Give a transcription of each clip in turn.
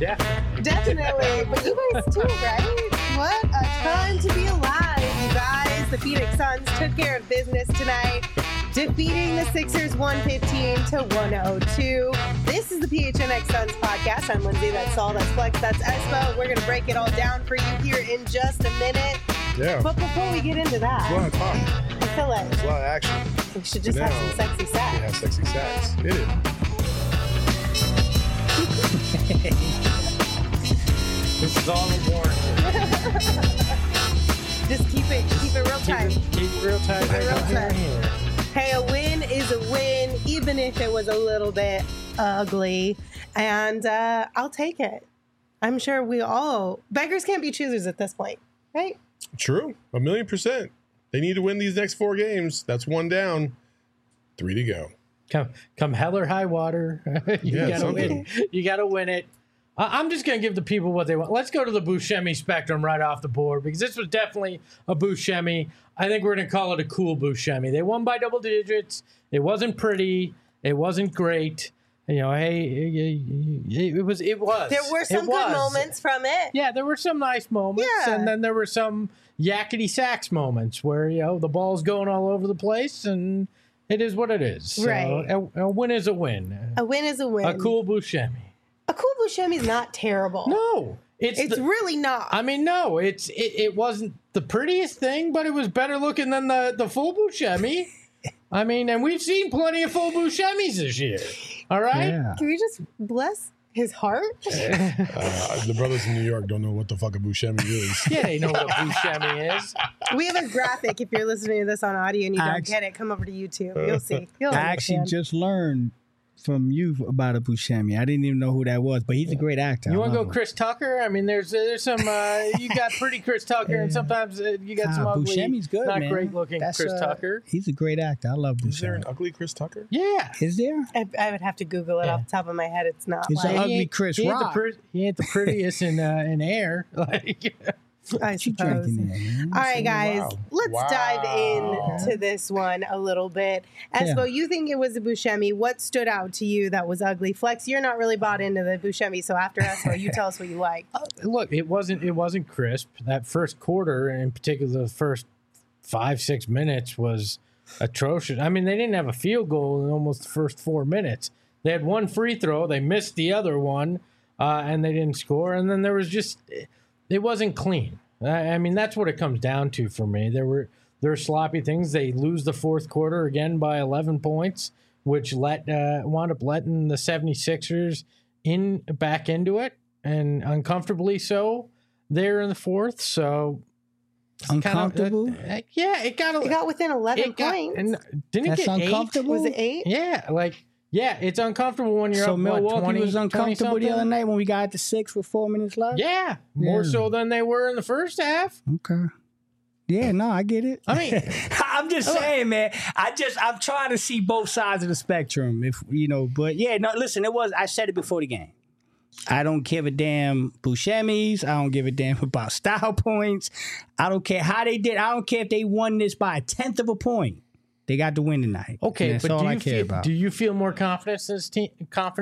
Yeah. Definitely. But you guys too, right? What a time to be alive, you guys. The Phoenix Suns took care of business tonight, defeating the Sixers 115-102. This is the PHNX Suns podcast. I'm Lindsay. That's Saul. That's Flex. That's Espo. We're going to break it all down for you here in just a minute. Yeah. But before we get into that, There's a lot of talk. I feel like There's a lot of action. we should just have some sexy sex. Yeah, sexy sacks. Hit it. This is all important. Just keep it real tight. Keep it real tight. Keep it real Right tight. here. Hey, a win is a win, even if it was a little bit ugly. And I'll take it. I'm sure beggars can't be choosers at this point, right? True. 1,000,000%. They need to win these next 4 games. That's 1 down. 3 to go. Come hell or high water. You Yeah, gotta something. win. You gotta win it. I'm just gonna give the people what they want. Let's go to the Buscemi spectrum right off the board because this was definitely a Buscemi. I think we're gonna call it a cool Buscemi. They won by double digits. It wasn't pretty. It wasn't great. You know, hey, it was. There were some good moments from it. Yeah, there were some nice moments, Yeah. and then there were some yakety sax moments where the ball's going all over the place, and it is what it is. So Right. a win is a win. A win is a win. A cool Buscemi. A cool Buscemi is not terrible. No, It's really not. I mean, no, it wasn't the prettiest thing, but it was better looking than the full Buscemi. I mean, and we've seen plenty of full Buscemis this year. All right. Yeah. Can we just bless his heart? The brothers in New York don't know what the fuck a Buscemi is. Yeah, they know what Buscemi is. We have a graphic. If you're listening to this on audio and you don't get it, come over to YouTube. You'll see. You'll I actually understand. just learned from you about a Buscemi. I didn't even know who that was, but he's a great actor. You want to I go love him. Chris Tucker? I mean, there's some. You got pretty Chris Tucker, and sometimes you got some ugly, Buscemi's good, not man. great looking That's, Chris Tucker. He's a great actor. I love Is there an Buscemi. ugly Chris Tucker? Yeah. Is there? I would have to Google it Yeah. off the top of my head. It's not It's like a ugly Chris he ain't Rock. he ain't the prettiest in air. Like, I What you suppose. drinking there, man? All right, guys, Wow. let's Wow. dive into this one a little bit. Espo, you think it was a Buscemi. What stood out to you that was ugly? Flex, you're not really bought into the Buscemi, so after Espo, you tell us what you like. look, it wasn't crisp. That first quarter, and in particular, the first 5-6 minutes was atrocious. I mean, they didn't have a field goal in almost the first 4 minutes. They had one free throw, they missed the other one, and they didn't score. And then there was it wasn't clean. I mean, that's what it comes down to for me. There were sloppy things. They lose the fourth quarter again by 11 points, which wound up letting the 76ers back into it, and uncomfortably so there in the fourth. So Uncomfortable? yeah, it got within 11 points. And didn't That's it get uncomfortable? Was it 8? 8? Yeah, it's uncomfortable when you're So up. Milwaukee 20, was uncomfortable the other 20-something? night when we got to 6 with 4 minutes left? Yeah, more Yeah. so than they were in the first half. Okay. Yeah, no, I get it. I mean, I'm just saying, man. I'm trying to see both sides of the spectrum, but yeah, no, listen, I said it before the game. I don't give a damn Buscemi's. I don't give a damn about style points. I don't care how they did. I don't care if they won this by 1/10 of a point. They got the win tonight. okay, And that's but all I care about. do you feel more confident in this team?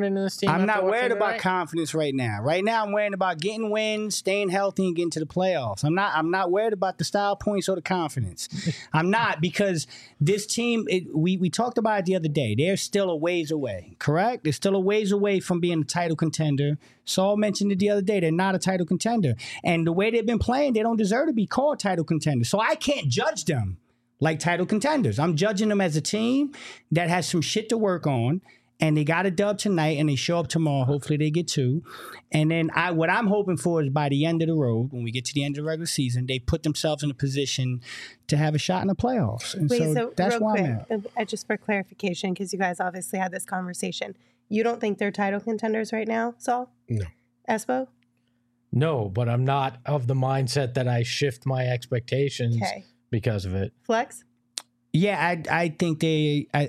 I'm not worried about tonight? confidence right now. Right now, I'm worried about getting wins, staying healthy, and getting to the playoffs. I'm not worried about the style points or the confidence. I'm not, because this team, we talked about it the other day. They're still a ways away, correct? They're still a ways away from being a title contender. Saul mentioned it the other day. They're not a title contender. And the way they've been playing, they don't deserve to be called title contenders. So I can't judge them like title contenders. I'm judging them as a team that has some shit to work on, and they got a dub tonight, and they show up tomorrow. Hopefully they get 2. And then what I'm hoping for is by the end of the road, when we get to the end of the regular season, they put themselves in a position to have a shot in the playoffs. And Wait, so that's real why quick, I'm at. just for clarification, because you guys obviously had this conversation. You don't think they're title contenders right now, Saul? No. Espo? No, but I'm not of the mindset that I shift my expectations Okay. because of it. Flex? Yeah, I think they are.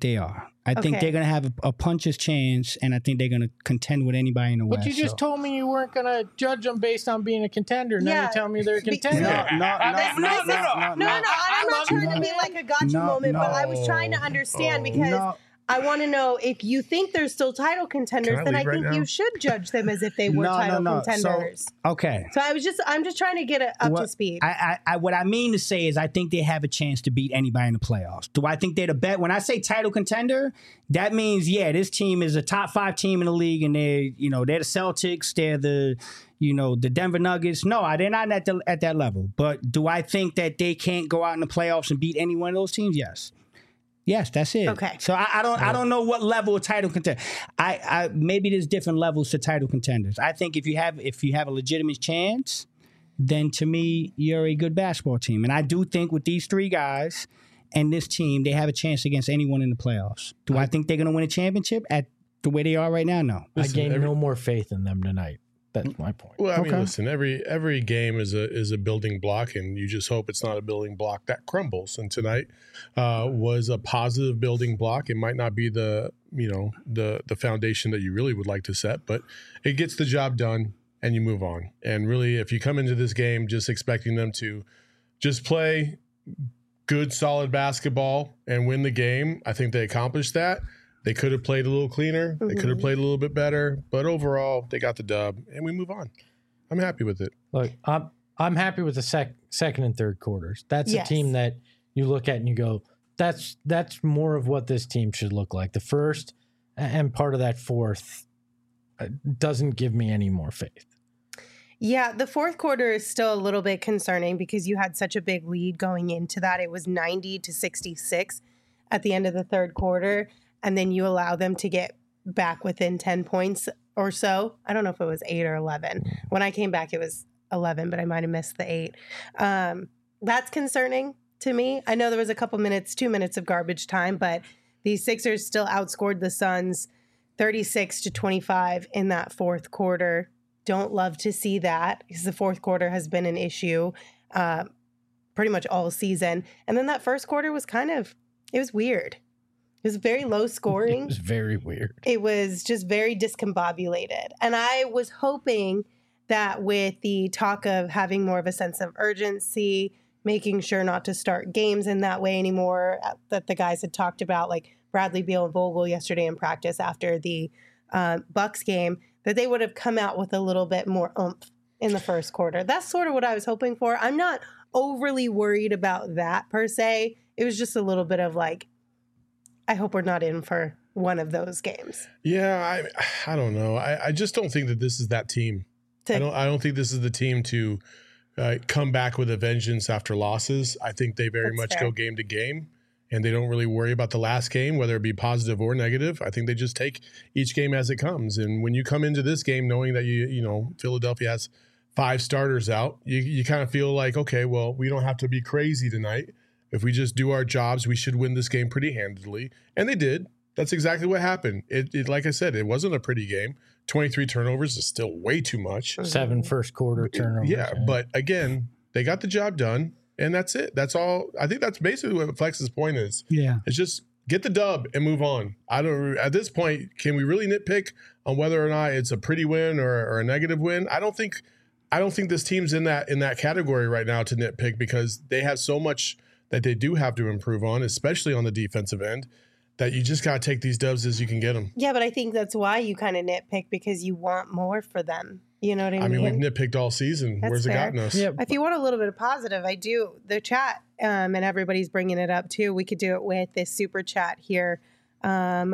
I think Okay. they're going to have a puncher's chance, and I think they're going to contend with anybody in the West. But you just so. told me you weren't going to judge them based on being a contender. Now Yeah, you tell me they're a because- contender. No. No, I'm not trying to be like a gotcha moment, but I was trying to understand because I want to know if you think they're still title contenders, Can I then I leave right think now? you should judge them as if they were title contenders. Okay. So I'm just trying to get it up to speed. What I mean to say is I think they have a chance to beat anybody in the playoffs. Do I think they're the best? When I say title contender, that means, this team is a top 5 team in the league, and they're the Celtics, they're the Denver Nuggets. No, they're not at that level. But do I think that they can't go out in the playoffs and beat any one of those teams? Yes. Yes, that's it. Okay. So I don't know what level of title contender. I maybe there's different levels to title contenders. I think if you have a legitimate chance, then to me you're a good basketball team. And I do think with these 3 guys and this team, they have a chance against anyone in the playoffs. Do I think they're going to win a championship at the way they are right now? No. I gain no more faith in them tonight. That's my point. Well, I mean, listen, every game is a building block, and you just hope it's not a building block that crumbles. And tonight was a positive building block. It might not be the foundation that you really would like to set, but it gets the job done, and you move on. And really, if you come into this game just expecting them to just play good, solid basketball and win the game, I think they accomplished that. They could have played a little cleaner. They could have played a little bit better. But overall, they got the dub, and we move on. I'm happy with it. Look, I'm happy with the second and third quarters. That's a team that you look at and you go, that's more of what this team should look like. The first and part of that fourth doesn't give me any more faith. Yeah, the fourth quarter is still a little bit concerning because you had such a big lead going into that. It was 90-66 at the end of the third quarter. And then you allow them to get back within 10 points or so. I don't know if it was 8 or 11. When I came back, it was 11, but I might have missed the 8. That's concerning to me. I know there was a couple minutes, 2 minutes of garbage time, but the Sixers still outscored the Suns 36-25 in that fourth quarter. Don't love to see that because the fourth quarter has been an issue pretty much all season. And then that first quarter was it was weird. It was very low scoring. It was very weird. It was just very discombobulated. And I was hoping that with the talk of having more of a sense of urgency, making sure not to start games in that way anymore, that the guys had talked about, like Bradley Beal and Vogel yesterday in practice after the Bucks game, that they would have come out with a little bit more oomph in the first quarter. That's sort of what I was hoping for. I'm not overly worried about that per se. It was just a little bit of like, I hope we're not in for one of those games. Yeah, I don't know. I just don't think that this is that team. I don't think this is the team to come back with a vengeance after losses. I think they very much go game to game, and they don't really worry about the last game, whether it be positive or negative. I think they just take each game as it comes. And when you come into this game knowing that Philadelphia has 5 starters out, you kind of feel like, okay, well, we don't have to be crazy tonight. If we just do our jobs, we should win this game pretty handedly. And they did. That's exactly what happened. It like I said, it wasn't a pretty game. 23 turnovers is still way too much. 7 first quarter turnovers. Yeah, but again, they got the job done, and that's it. That's all. I think that's basically what Flex's point is. Yeah. It's just get the dub and move on. At this point, can we really nitpick on whether or not it's a pretty win or a negative win? I don't think this team's in that category right now to nitpick because they have so much that they do have to improve on, especially on the defensive end, that you just got to take these dubs as you can get them. Yeah, but I think that's why you kind of nitpick because you want more for them. You know what I mean? I mean, we've nitpicked all season. That's Where's fair. it gotten us? Yeah. If you want a little bit of positive, I do. The chat, and everybody's bringing it up too. We could do it with this super chat here from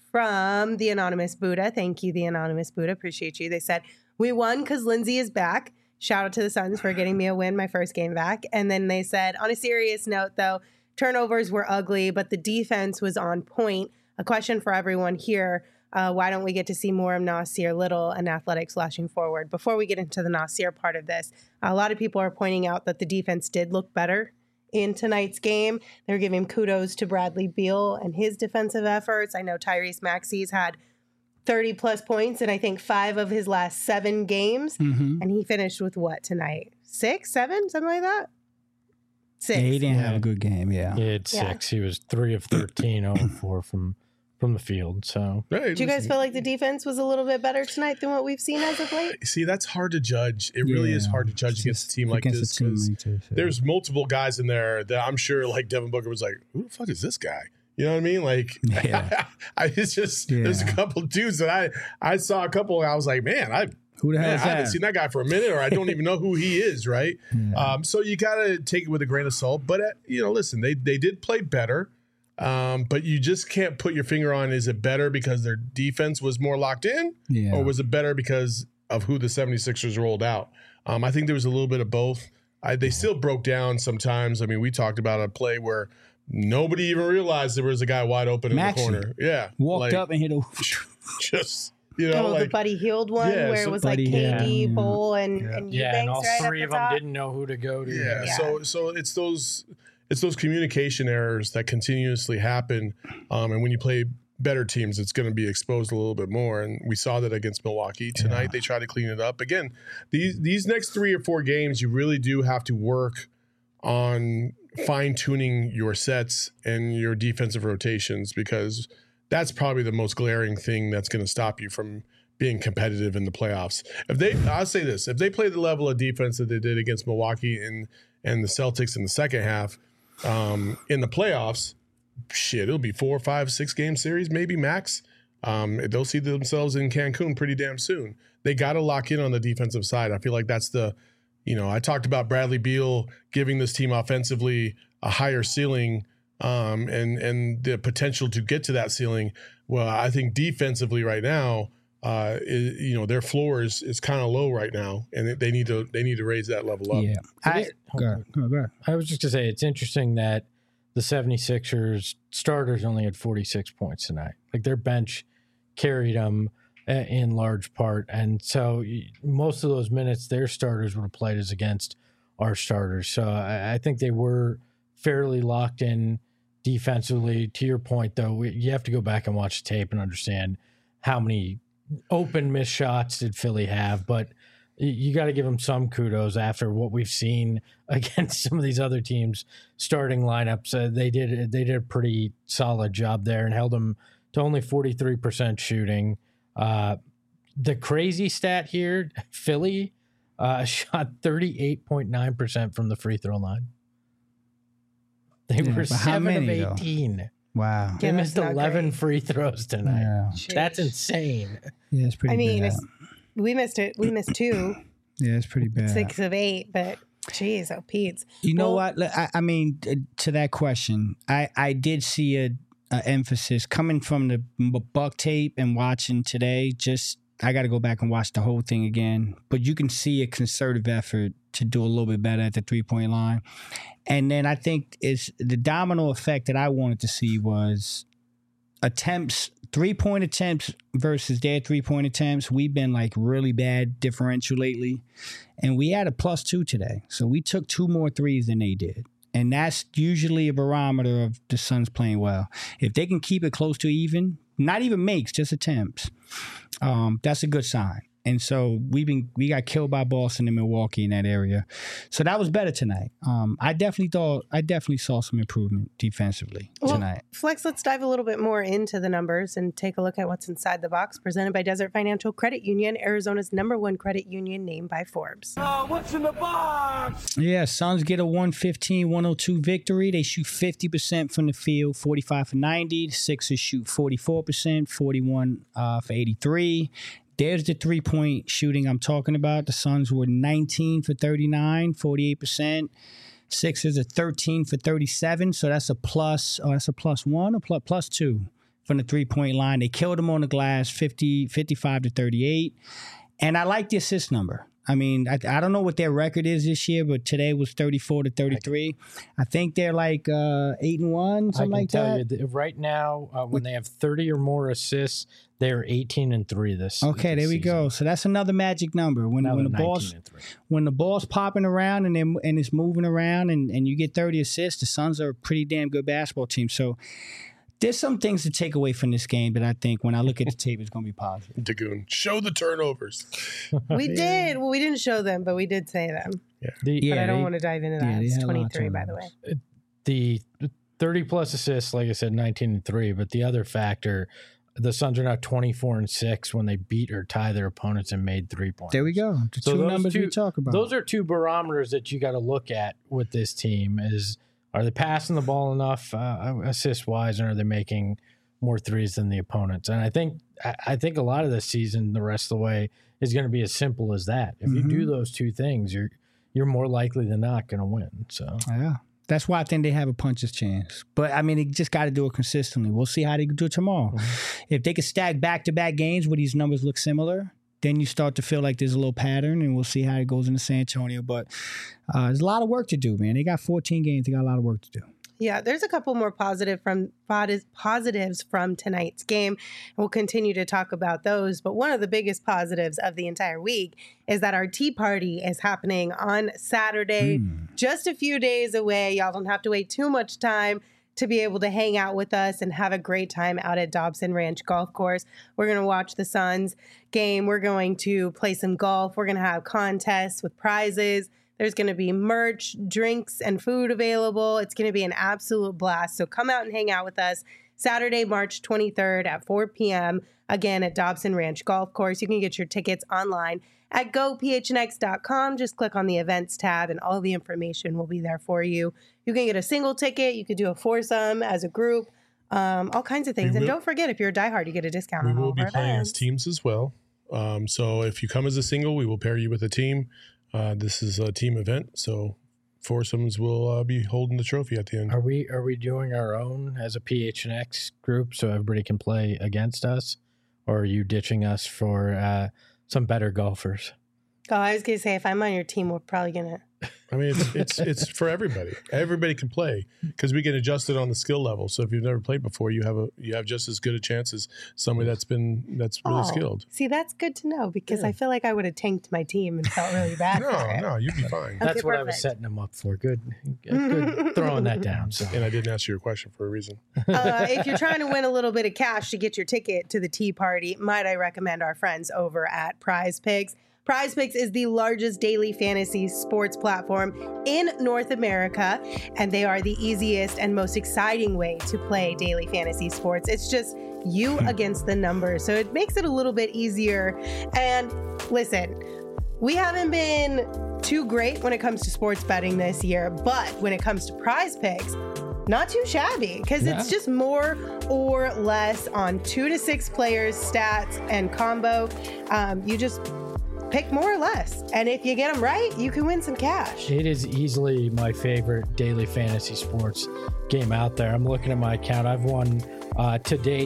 the Anonymous Buddha. Thank you, the Anonymous Buddha. Appreciate you. They said, we won because Lindsay is back. Shout out to the Suns for getting me a win, my first game back. And then they said, on a serious note, though, turnovers were ugly, but the defense was on point. A question for everyone here. Why don't we get to see more of Nasir Little and Athletic slashing forward? Before we get into the Nasir part of this, a lot of people are pointing out that the defense did look better in tonight's game. They're giving kudos to Bradley Beal and his defensive efforts. I know Tyrese Maxey's had 30 plus points in I think 5 of his last 7 games. Mm-hmm. And he finished with what tonight? 6, 7, something like that? 6. Yeah, he didn't have a good game. Yeah. He had 6. He was 3 of 13, 0 of 4 from the field. So, Hey, Do you guys feel like the defense was a little bit better tonight than what we've seen as of late? See, that's hard to judge. It really is hard to judge against a team like Against this a team because like this, yeah. there's multiple guys in there that I'm sure, like Devin Booker was like, "Who the fuck is this guy?" You know what I mean? Like, it's just there's a couple dudes that I saw a couple. I was like, man, who the hell is that? I haven't seen that guy for a minute, or I don't even know who he is, right? So you got to take it with a grain of salt. But, listen, they did play better, but you just can't put your finger on, is it better because their defense was more locked in, or was it better because of who the 76ers rolled out? I think there was a little bit of both. They still broke down sometimes. I mean, we talked about a play where nobody even realized there was a guy wide open in the corner. Yeah. Walked up and hit a... Just... the Buddy Hield one where it was like KD, Bull, and Eubanks, and all right three of them didn't know who to go to. So it's those communication errors that continuously happen, and when you play better teams, it's going to be exposed a little bit more. And we saw that against Milwaukee tonight. They tried to clean it up. Again, these next 3 or 4 games, you really do have to work on fine-tuning your sets and your defensive rotations, because that's probably the most glaring thing that's going to stop you from being competitive in the playoffs. I'll say this, if they play the level of defense that they did against Milwaukee and the Celtics in the second half, in the playoffs, it'll be 4, 5, 6 game series, maybe max. They'll see themselves in Cancun pretty damn soon. They got to lock in on the defensive side. I feel like that's I talked about Bradley Beal giving this team offensively a higher ceiling, and the potential to get to that ceiling. Well, I think defensively right now, their floor is kind of low right now, and they need to raise that level up. Yeah, go ahead. I was just gonna say it's interesting that the 76ers starters only had 46 points tonight. Like, their bench carried them in large part, and so most of those minutes their starters would have played as against our starters. So I think they were fairly locked in defensively. To your point, though, you have to go back and watch the tape and understand how many open missed shots did Philly have, but you got to give them some kudos after what we've seen against some of these other teams' starting lineups. They did a pretty solid job there and held them to only 43% shooting. The crazy stat here, Philly shot 38.9% from the free throw line. They were 7 of 18. Though? Wow. They missed 11 free throws tonight. Yeah. That's insane. Yeah, it's pretty bad. We missed it. We missed 2. Yeah, it's pretty bad. 6 of 8, but geez, Pete's. You know what? I mean, to that question, I did see a emphasis coming from the Buck tape and watching today. I got to go back and watch the whole thing again. But you can see a concerted effort to do a little bit better at the 3-point line. And then I think it's the domino effect that I wanted to see was attempts, 3-point attempts versus their 3-point attempts. We've been like really bad differential lately. And we had a +2 today. So we took 2 more threes than they did. And that's usually a barometer of the Suns playing well. If they can keep it close to even, not even makes, just attempts, that's a good sign. And so we got killed by Boston and Milwaukee in that area. So that was better tonight. I definitely saw some improvement defensively tonight. Flex, let's dive a little bit more into the numbers and take a look at what's inside the box. Presented by Desert Financial Credit Union, Arizona's #1 credit union, named by Forbes. What's in the box? Yeah, Suns get a 115-102 victory. They shoot 50% from the field, 45 for 90. The Sixers shoot 44%, 41 for 83. There's the 3-point shooting I'm talking about. The Suns were 19 for 39, 48%. Sixers are 13 for 37, so that's a plus. Oh, that's a +1 or +2 from the 3-point line. They killed them on the glass, 55 to 38. And I like the assist number. I mean, I don't know what their record is this year, but today was 34 to 33. I think they're like 8-1, something like that. I can tell you, right now, when they have 30 or more assists, they're 18-3 this. Okay, there we season. go. So that's another magic number. When the ball's popping around and it's moving around and you get 30 assists, the Suns are a pretty damn good basketball team. So there's some things to take away from this game that I think when I look at the tape, it's going to be positive. Dagoon, show the turnovers. We did. Well, we didn't show them, but we did say them. Yeah. But I don't want to dive into that. It's 23, by the way. The 30-plus assists, like I said, 19-3. But the other factor, the Suns are now 24-6 when they beat or tie their opponents and made 3 points. There we go. The two numbers we talk about. Those are 2 barometers that you got to look at with this team is Are they passing the ball enough assist-wise, and are they making more threes than the opponents? And I think a lot of this season, the rest of the way, is going to be as simple as that. If you do those two things, you're more likely than not going to win. So yeah. That's why I think they have a puncher's chance. But, I mean, they just got to do it consistently. We'll see how they do it tomorrow. If they can stack back-to-back games where these numbers look similar, then you start to feel like there's a little pattern, and we'll see how it goes into San Antonio. But there's a lot of work to do, man. They got 14 games. They got a lot of work to do. Yeah, there's a couple more positives from tonight's game. We'll continue to talk about those. But one of the biggest positives of the entire week is that our tea party is happening on Saturday, just a few days away. Y'all don't have to wait too much time to be able to hang out with us and have a great time out at Dobson Ranch Golf Course. We're going to watch the Suns game. We're going to play some golf. We're going to have contests with prizes. There's going to be merch, drinks, and food available. It's going to be an absolute blast. So come out and hang out with us Saturday, March 23rd at 4 p.m., again at Dobson Ranch Golf Course. You can get your tickets online at gophnx.com. Just click on the events tab and all the information will be there for you. You can get a single ticket. You could do a foursome as a group, all kinds of things. And don't forget, if you're a diehard, you get a discount on all of our events. We will be playing as teams as well. So if you come as a single, we will pair you with a team. This is a team event, so foursomes will be holding the trophy at the end. Are we doing our own as a PHNX group so everybody can play against us, or are you ditching us for some better golfers? Oh, I was gonna say, if I'm on your team, we're probably gonna. I mean, it's for everybody. Everybody can play because we can adjust it on the skill level. So if you've never played before, you have just as good a chance as somebody that's really skilled. See, that's good to know because I feel like I would have tanked my team and felt really bad. No, you'd be fine. That's what I was setting them up for. Good throwing that down. So. And I didn't ask you your question for a reason. If you're trying to win a little bit of cash to get your ticket to the tea party, might I recommend our friends over at Prize Picks. Prize Picks is the largest daily fantasy sports platform in North America, and they are the easiest and most exciting way to play daily fantasy sports. It's just you against the numbers, so it makes it a little bit easier. And listen, we haven't been too great when it comes to sports betting this year, but when it comes to Prize Picks, not too shabby because it's just more or less on 2 to 6 players, stats, and combo. You just pick more or less. And if you get them right, you can win some cash. It is easily my favorite daily fantasy sports game out there. I'm looking at my account. I've won to date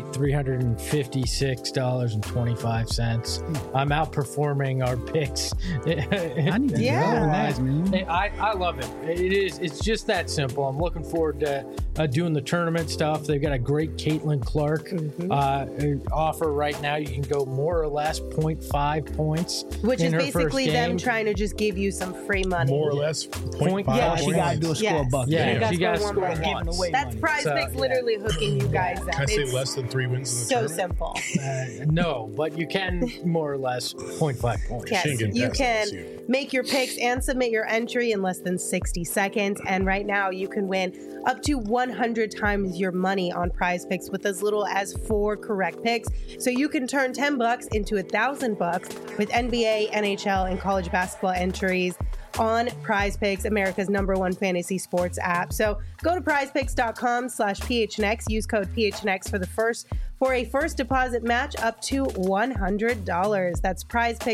$356.25. I'm outperforming our picks. I need to go. Nice, man. I love it. It's just that simple. I'm looking forward to doing the tournament stuff. They've got a great Caitlin Clark offer right now. You can go more or less 0.5 points. Which is basically them trying to just give you some free money. More or less 0.5 Yeah, she got to do a score bucket. Yeah, she got to score once. That's Prize Picks literally hooking you guys up. Can I say less than 3 wins in the tournament? So simple. No, but you can more or less 0.5 points. Yes, you can make your picks and submit your entry in less than 60 seconds. And right now you can win up to 100 times your money on Prize Picks with as little as 4 correct picks. So you can turn $10 into $1,000 with NBA, NHL, and college basketball entries on Prize Picks, America's #1 fantasy sports app. So go to prizepicks.com/PHNX. Use code PHNX for a first deposit match up to $100. That's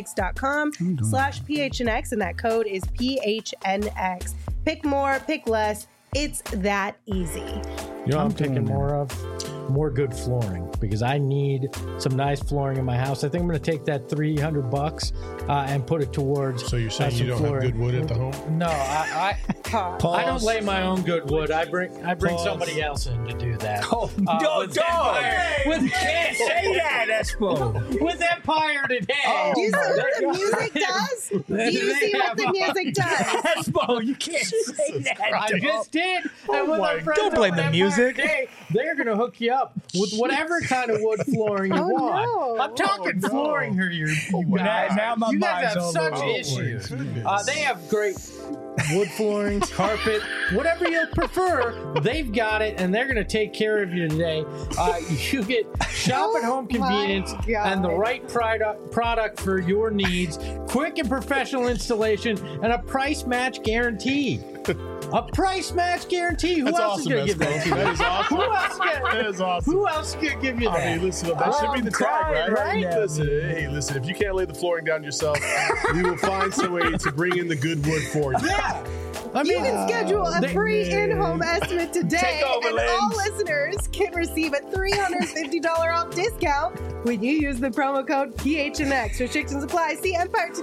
prizepicks.com/PHNX, and that code is PHNX. Pick more, pick less. It's that easy. You know what I'm picking more of? More good flooring, because I need some nice flooring in my house. I think I'm going to take that $300 and put it towards. So you're saying you don't have good wood at the home? No, I don't lay my own good wood. I bring somebody else in to do that. Oh, dog! You can't say that, Espo. With Empire today. Do you see what the music does? Do you see what the music does? Espo, you can't say that. I just did. Don't blame the music. Today, they're going to hook you up with whatever kind of wood flooring you want. No. I'm talking flooring here, you guys. Now my you guys mind's have all such over. issues. They have great wood flooring, carpet, whatever you prefer. They've got it, and they're going to take care of you today. You get shop at home convenience and the right product for your needs, quick and professional installation, and a price match guarantee. A price match guarantee. Who That's else awesome, is going to give that to you? That is awesome. Who else That is awesome. Who else could give you that? I mean, listen, that should be the tag, right? now, Listen, if you can't lay the flooring down yourself, we will find some way to bring in the good wood for you. Yeah. I You mean, can schedule a free in-home estimate today, Take over, and all listeners can receive a $350 off discount when you use the promo code PHNX. Restrictions apply. See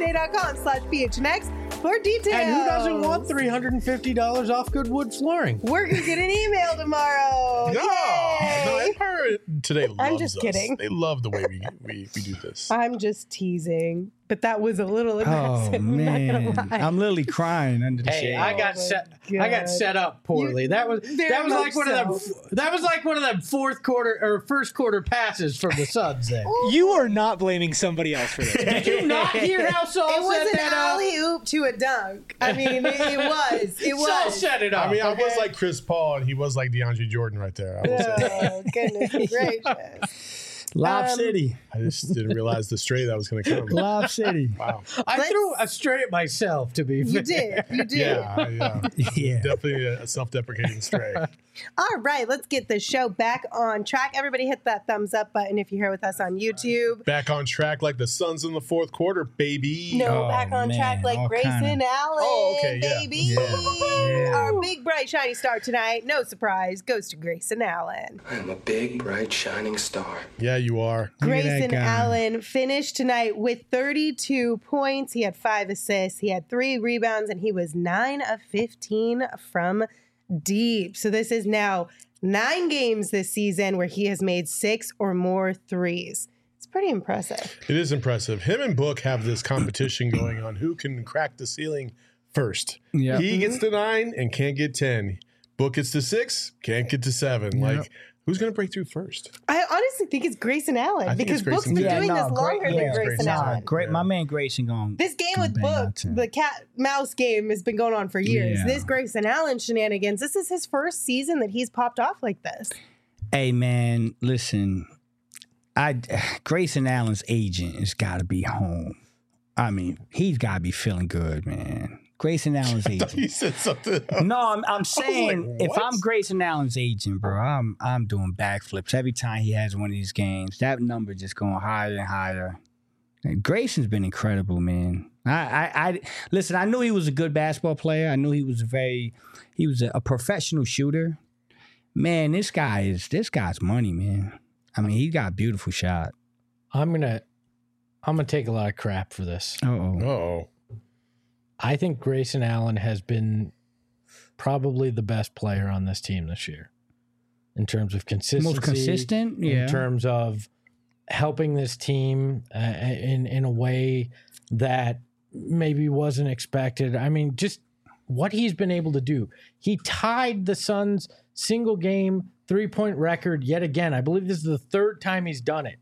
EmpireToday.com/PHNX for details. and who doesn't want $350 off Goodwood flooring? We're gonna get an email tomorrow. No, Yay! Empire today loves I'm just us. kidding. They love the way we do this. I'm just teasing, but that was a little Oh aggressive. I'm not man, gonna lie. I'm literally crying under the Hey, shade. I got set up poorly. That was very like one of much them. That was like one of them fourth quarter or first quarter passes from the Suns. Then You are not blaming somebody else for this. did you not hear how Saul It was set an that up? alley oop to a dunk. I mean, it was. It Saul was. set it up. I mean, I okay? was like Chris Paul, and he was like DeAndre Jordan right there. I will say. Oh, goodness gracious. Lob City, I just didn't realize the stray that was going to come. Lob City. Wow. I threw a stray at myself. To be You fair. did. You did. Yeah. Yeah. Definitely a self-deprecating stray. All right, let's get the show back on track. Everybody hit that thumbs up button if you're here with us on YouTube. Back on track like the Suns in the fourth quarter, baby. No, Oh, back on man, track like all Grayson kinda. Allen, Oh, okay, yeah. baby. Yeah. Our big, bright, shiny star tonight, no surprise, goes to Grayson Allen. I am a big, bright, shining star. Yeah, you are. Look at that Grayson guy. Allen finished tonight with 32 points. He had 5 assists. He had 3 rebounds, and he was 9 of 15 from deep. So this is now 9 games this season where he has made 6 or more threes. It's pretty impressive. It is impressive. Him and Book have this competition going on who can crack the ceiling first. Yeah. He gets to 9 and can't get 10. Book gets to 6, can't get to 7. Like, who's going to break through first? I honestly think it's Grayson Allen I think because it's Book's Grayson. been Yeah, doing this longer than Grayson Grayson. Allen. Great, my man Grayson going. This game gonna with bang out Book, 10. the cat mouse game has been going on for years. Yeah. This Grayson Allen shenanigans, this is his first season that he's popped off like this. Hey man, listen, Grayson Allen's agent has got to be home. I mean, he's got to be feeling good, man. Grayson Allen's agent. He said something else. No, I'm saying like, if what? I'm Grayson Allen's agent, bro, I'm doing backflips every time he has one of these games. That number just going higher and higher. And Grayson's been incredible, man. I listen. I knew he was a good basketball player. I knew he was a professional shooter. Man, this guy's money, man. I mean, he got a beautiful shot. I'm gonna take a lot of crap for this. Uh-oh. Uh-oh. I think Grayson Allen has been probably the best player on this team this year in terms of consistency. Most consistent, yeah. In terms of helping this team in a way that maybe wasn't expected. I mean, just what he's been able to do. He tied the Suns' single game 3-point record yet again. I believe this is the 3rd time he's done it.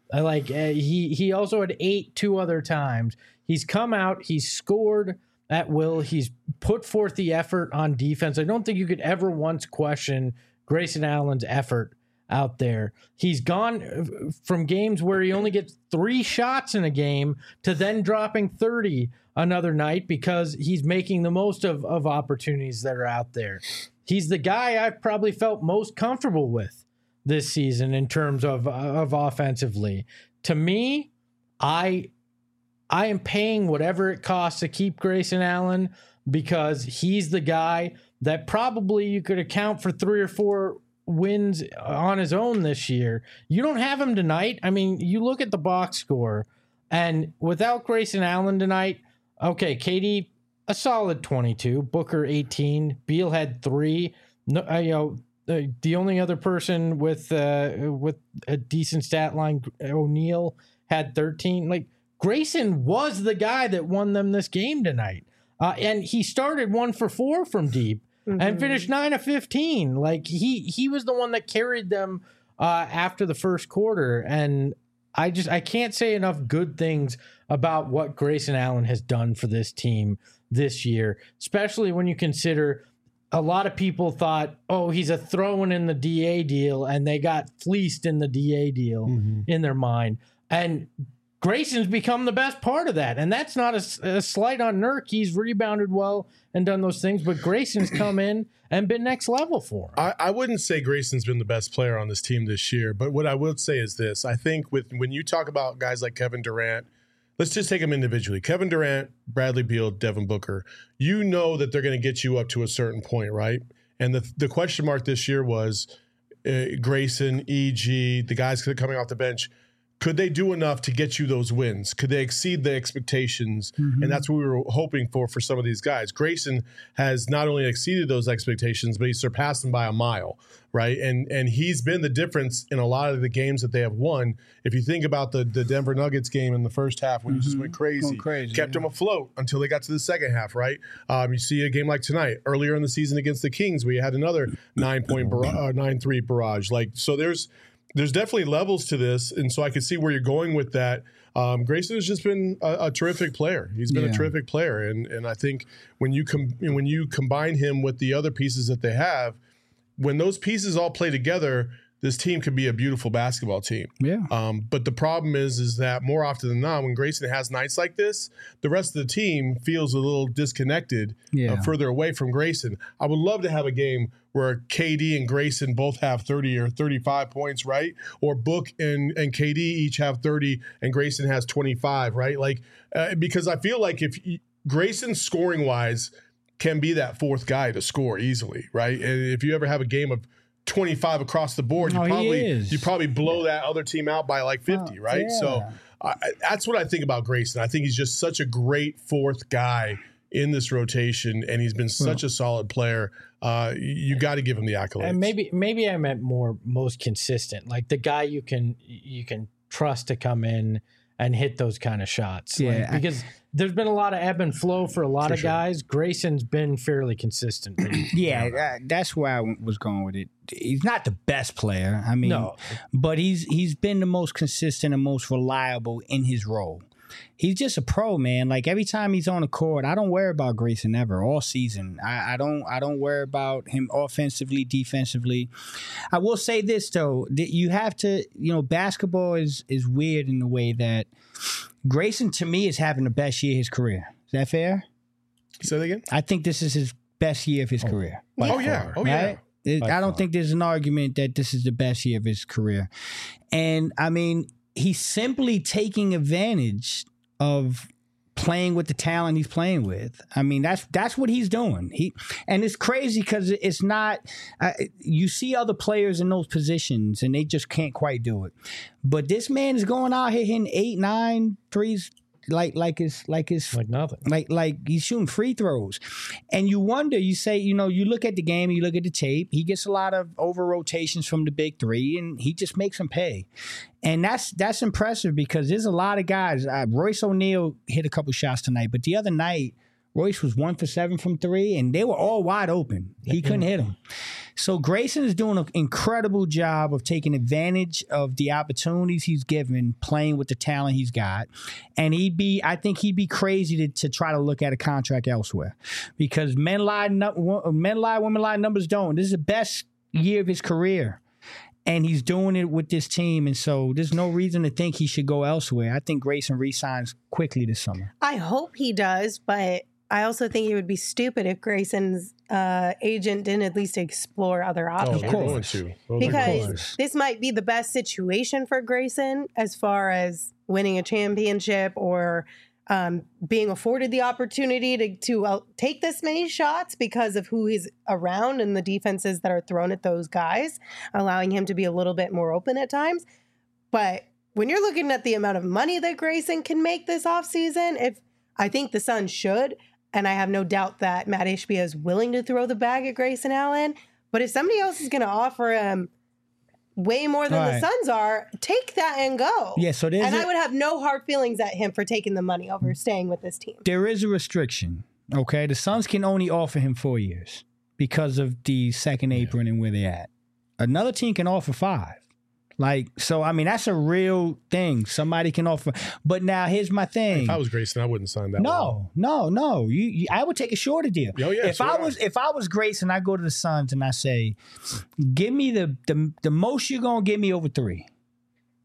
He also had 8 2 other times. He's come out, he's scored at will, he's put forth the effort on defense. I don't think you could ever once question Grayson Allen's effort out there. He's gone from games where he only gets 3 shots in a game to then dropping 30 another night because he's making the most of opportunities that are out there. He's the guy I've probably felt most comfortable with this season in terms of offensively. To me, I am paying whatever it costs to keep Grayson Allen because he's the guy that probably you could account for 3 or 4 wins on his own this year. You don't have him tonight. I mean, you look at the box score, and without Grayson Allen tonight, okay, KD, a solid 22, Booker 18, Beal had 3. No, the only other person with a decent stat line, O'Neal, had 13. Like, Grayson was the guy that won them this game tonight. And he started 1 for 4 from deep and finished 9 of 15. Like, he was the one that carried them after the first quarter. And I can't say enough good things about what Grayson Allen has done for this team this year, especially when you consider a lot of people thought, oh, he's a throw-in in the DA deal, and they got fleeced in the DA deal in their mind. And Grayson's become the best part of that. And that's not a slight on Nurk. He's rebounded well and done those things, but Grayson's come in and been next level for him. I wouldn't say Grayson's been the best player on this team this year, but what I would say is this. I think when you talk about guys like Kevin Durant, let's just take them individually. Kevin Durant, Bradley Beal, Devin Booker, you know that they're going to get you up to a certain point, right? And the question mark this year was Grayson, EG, the guys coming off the bench. Could they do enough to get you those wins? Could they exceed the expectations? Mm-hmm. And that's what we were hoping for some of these guys. Grayson has not only exceeded those expectations, but he surpassed them by a mile, right? And he's been the difference in a lot of the games that they have won. If you think about the Denver Nuggets game in the first half when he just went crazy, kept them afloat until they got to the second half, right? You see a game like tonight, earlier in the season against the Kings, we had another 9-3 barrage. Like, so there's definitely levels to this, and so I could see where you're going with that. Grayson has just been a terrific player. He's been a terrific player, and I think when you combine him with the other pieces that they have, when those pieces all play together, this team could be a beautiful basketball team. Yeah. But the problem is that more often than not, when Grayson has nights like this, the rest of the team feels a little disconnected, further away from Grayson. I would love to have a game where KD and Grayson both have 30 or 35 points, right? Or Book and KD each have 30 and Grayson has 25, right? Like, because I feel like if Grayson scoring wise can be that fourth guy to score easily, right? And if you ever have a game of 25 across the board, you probably blow that other team out by like 50, right? Yeah. So that's what I think about Grayson. I think he's just such a great fourth guy in this rotation, and he's been such a solid player. You got to give him the accolades. And maybe I meant most consistent, like the guy you can trust to come in and hit those kind of shots. Yeah, like, because there's been a lot of ebb and flow for a lot of guys. Grayson's been fairly consistent. That's where I was going with it. He's not the best player, but he's been the most consistent and most reliable in his role. He's just a pro, man. Like every time he's on the court, I don't worry about Grayson ever all season. I don't worry about him offensively, defensively. I will say this though, that you have to, basketball is weird in the way that Grayson to me is having the best year of his career. Is that fair? Say that again? I think this is his best year of his career. Yeah. Right? I don't think there's an argument that this is the best year of his career. And I mean, he's simply taking advantage of playing with the talent he's playing with. I mean, that's what he's doing. And it's crazy because it's not. You see other players in those positions and they just can't quite do it. But this man is going out here hitting 8, 9 threes. Like nothing. Like he's shooting free throws. And you wonder, you say, you look at the game, you look at the tape, he gets a lot of over rotations from the big three and he just makes them pay. And that's impressive because there's a lot of guys. Royce O'Neal hit a couple shots tonight, but the other night, Royce was 1 for 7 from 3, and they were all wide open. He couldn't hit them. So Grayson is doing an incredible job of taking advantage of the opportunities he's given, playing with the talent he's got. And I think he'd be crazy to try to look at a contract elsewhere because men lie, women lie, numbers don't. This is the best year of his career. And he's doing it with this team. And so there's no reason to think he should go elsewhere. I think Grayson re-signs quickly this summer. I hope he does, but I also think it would be stupid if Grayson's agent didn't at least explore other options. Of course. Because this might be the best situation for Grayson as far as winning a championship or being afforded the opportunity to take this many shots because of who he's around and the defenses that are thrown at those guys, allowing him to be a little bit more open at times. But when you're looking at the amount of money that Grayson can make this offseason, I think the Suns should. And I have no doubt that Matt Ishbia is willing to throw the bag at Grayson Allen. But if somebody else is going to offer him way more than the Suns are, take that and go. Yeah, so I would have no hard feelings at him for taking the money over staying with this team. There is a restriction, okay? The Suns can only offer him 4 years because of the second apron and where they're at. Another team can offer 5. So, I mean, that's a real thing. Somebody can offer. But now, here's my thing. If I was Grayson, I wouldn't sign that. No. I would take a shorter deal. Oh, yeah, if I was Grayson, I go to the Suns and I say, give me the most you're going to give me over 3.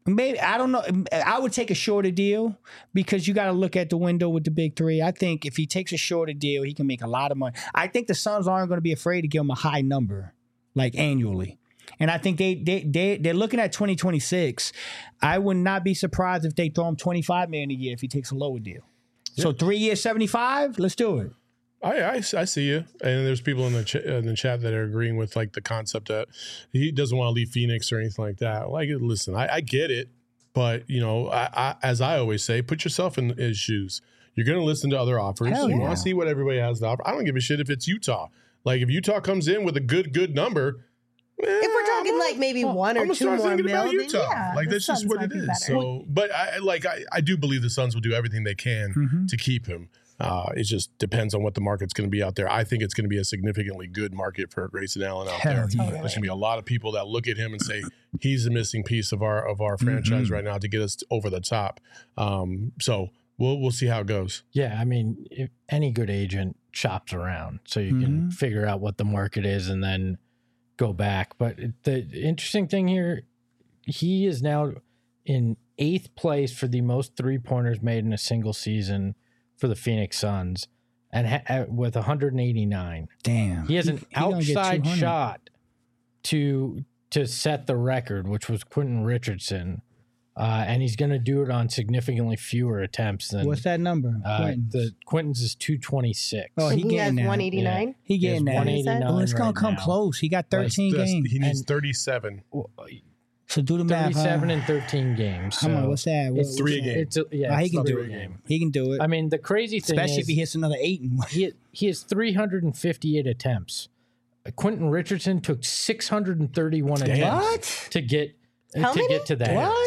Maybe, I don't know. I would take a shorter deal because you got to look at the window with the big three. I think if he takes a shorter deal, he can make a lot of money. I think the Suns aren't going to be afraid to give him a high number, like annually. And I think they're looking at 2026. I would not be surprised if they throw him $25 million a year if he takes a lower deal. Yeah. So 3 years, 75. Let's do it. I see you, and there's people in the chat that are agreeing with like the concept that he doesn't want to leave Phoenix or anything like that. Like, listen, I get it, but you know, as I always say, put yourself in his shoes. You're going to listen to other offers. You want to see what everybody has to offer. I don't give a shit if it's Utah. Like, if Utah comes in with a good number, if we're talking like maybe one or two more million, like that's just what it is. So, but I do believe the Suns will do everything they can to keep him. It just depends on what the market's going to be out there. I think it's going to be a significantly good market for Grayson Allen out there. Yeah. There's going to be a lot of people that look at him and say he's the missing piece of our franchise right now to get us over the top. So we'll see how it goes. Yeah, I mean, if any good agent shops around, so you can figure out what the market is and then go back. But the interesting thing here, he is now in 8th place for the most 3-pointers made in a single season for the Phoenix Suns, and with 189. Damn, he has an outside shot to set the record, which was Quentin Richardson, and he's going to do it on significantly fewer attempts than. What's that number? Quentin's is 226. Oh, he has 189. Yeah. He getting that. 189. Oh, it's gonna come close. He got 13 games. He needs 37. So do the math. 37 in 13 games. Come on, what's that? It's 3 a game. He can do it. He can do it. I mean, the crazy thing especially is, if he hits another 8. He has 358 attempts. Quentin Richardson took 631 attempts to get to that. What?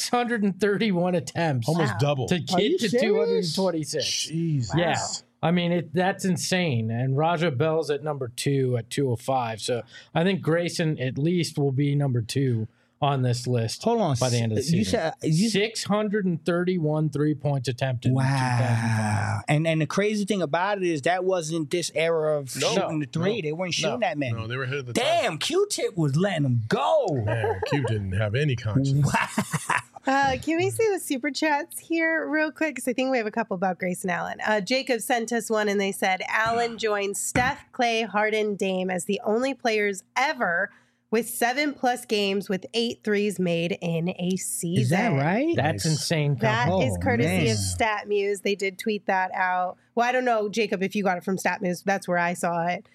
631 attempts. Almost double. To get to 226. Jeez. Yeah. Wow. I mean, that's insane. And Raja Bell's at number 2 at 205. So I think Grayson at least will be number 2 on this list. Hold on. By the end of the season. 631 3-point attempted. Wow. And the crazy thing about it is that wasn't this era of shooting the 3. They weren't shooting that many. No, they were ahead of the time. Q-Tip was letting them go. Man, Q didn't have any conscience. Wow. Can we see the super chats here real quick? Because I think we have a couple about Grayson Allen. Jacob sent us one and they said, Allen joined Steph, Clay, Harden, Dame as the only players ever with 7+ games with 8 threes made in a season. Is that right? That's insane. That is courtesy of StatMuse. They did tweet that out. Well, I don't know, Jacob, if you got it from StatMuse. That's where I saw it.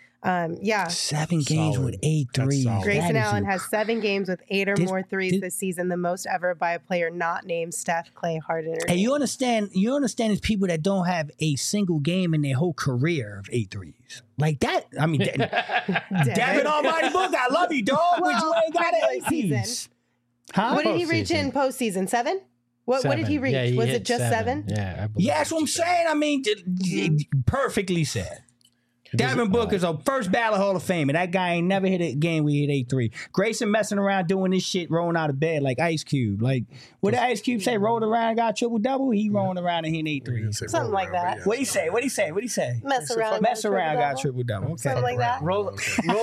7 games with 8 threes. Grayson Allen has 7 games with 8 or more threes this season, the most ever by a player not named Steph, Clay, Harden, or Dame. You understand there's people that don't have a single game in their whole career of 8 threes. Like that, I mean, Devin Almighty Book, I love you, dog, but you ain't got an 8 season. Huh? What did he reach in postseason? 7? What did he reach? Yeah, was it just 7? Yeah, that's what I'm saying. I mean, perfectly said. Devin Booker's a first ballot Hall of Fame, and that guy ain't never hit a game where he hit 8-3. Grayson messing around doing this shit, rolling out of bed like Ice Cube. Like, what did Ice Cube say? Rolled around, got triple-double? He rolling around and hitting 8-3s. Something like that. What'd he say? Mess around, got triple-double. Okay. Something like that. Rolling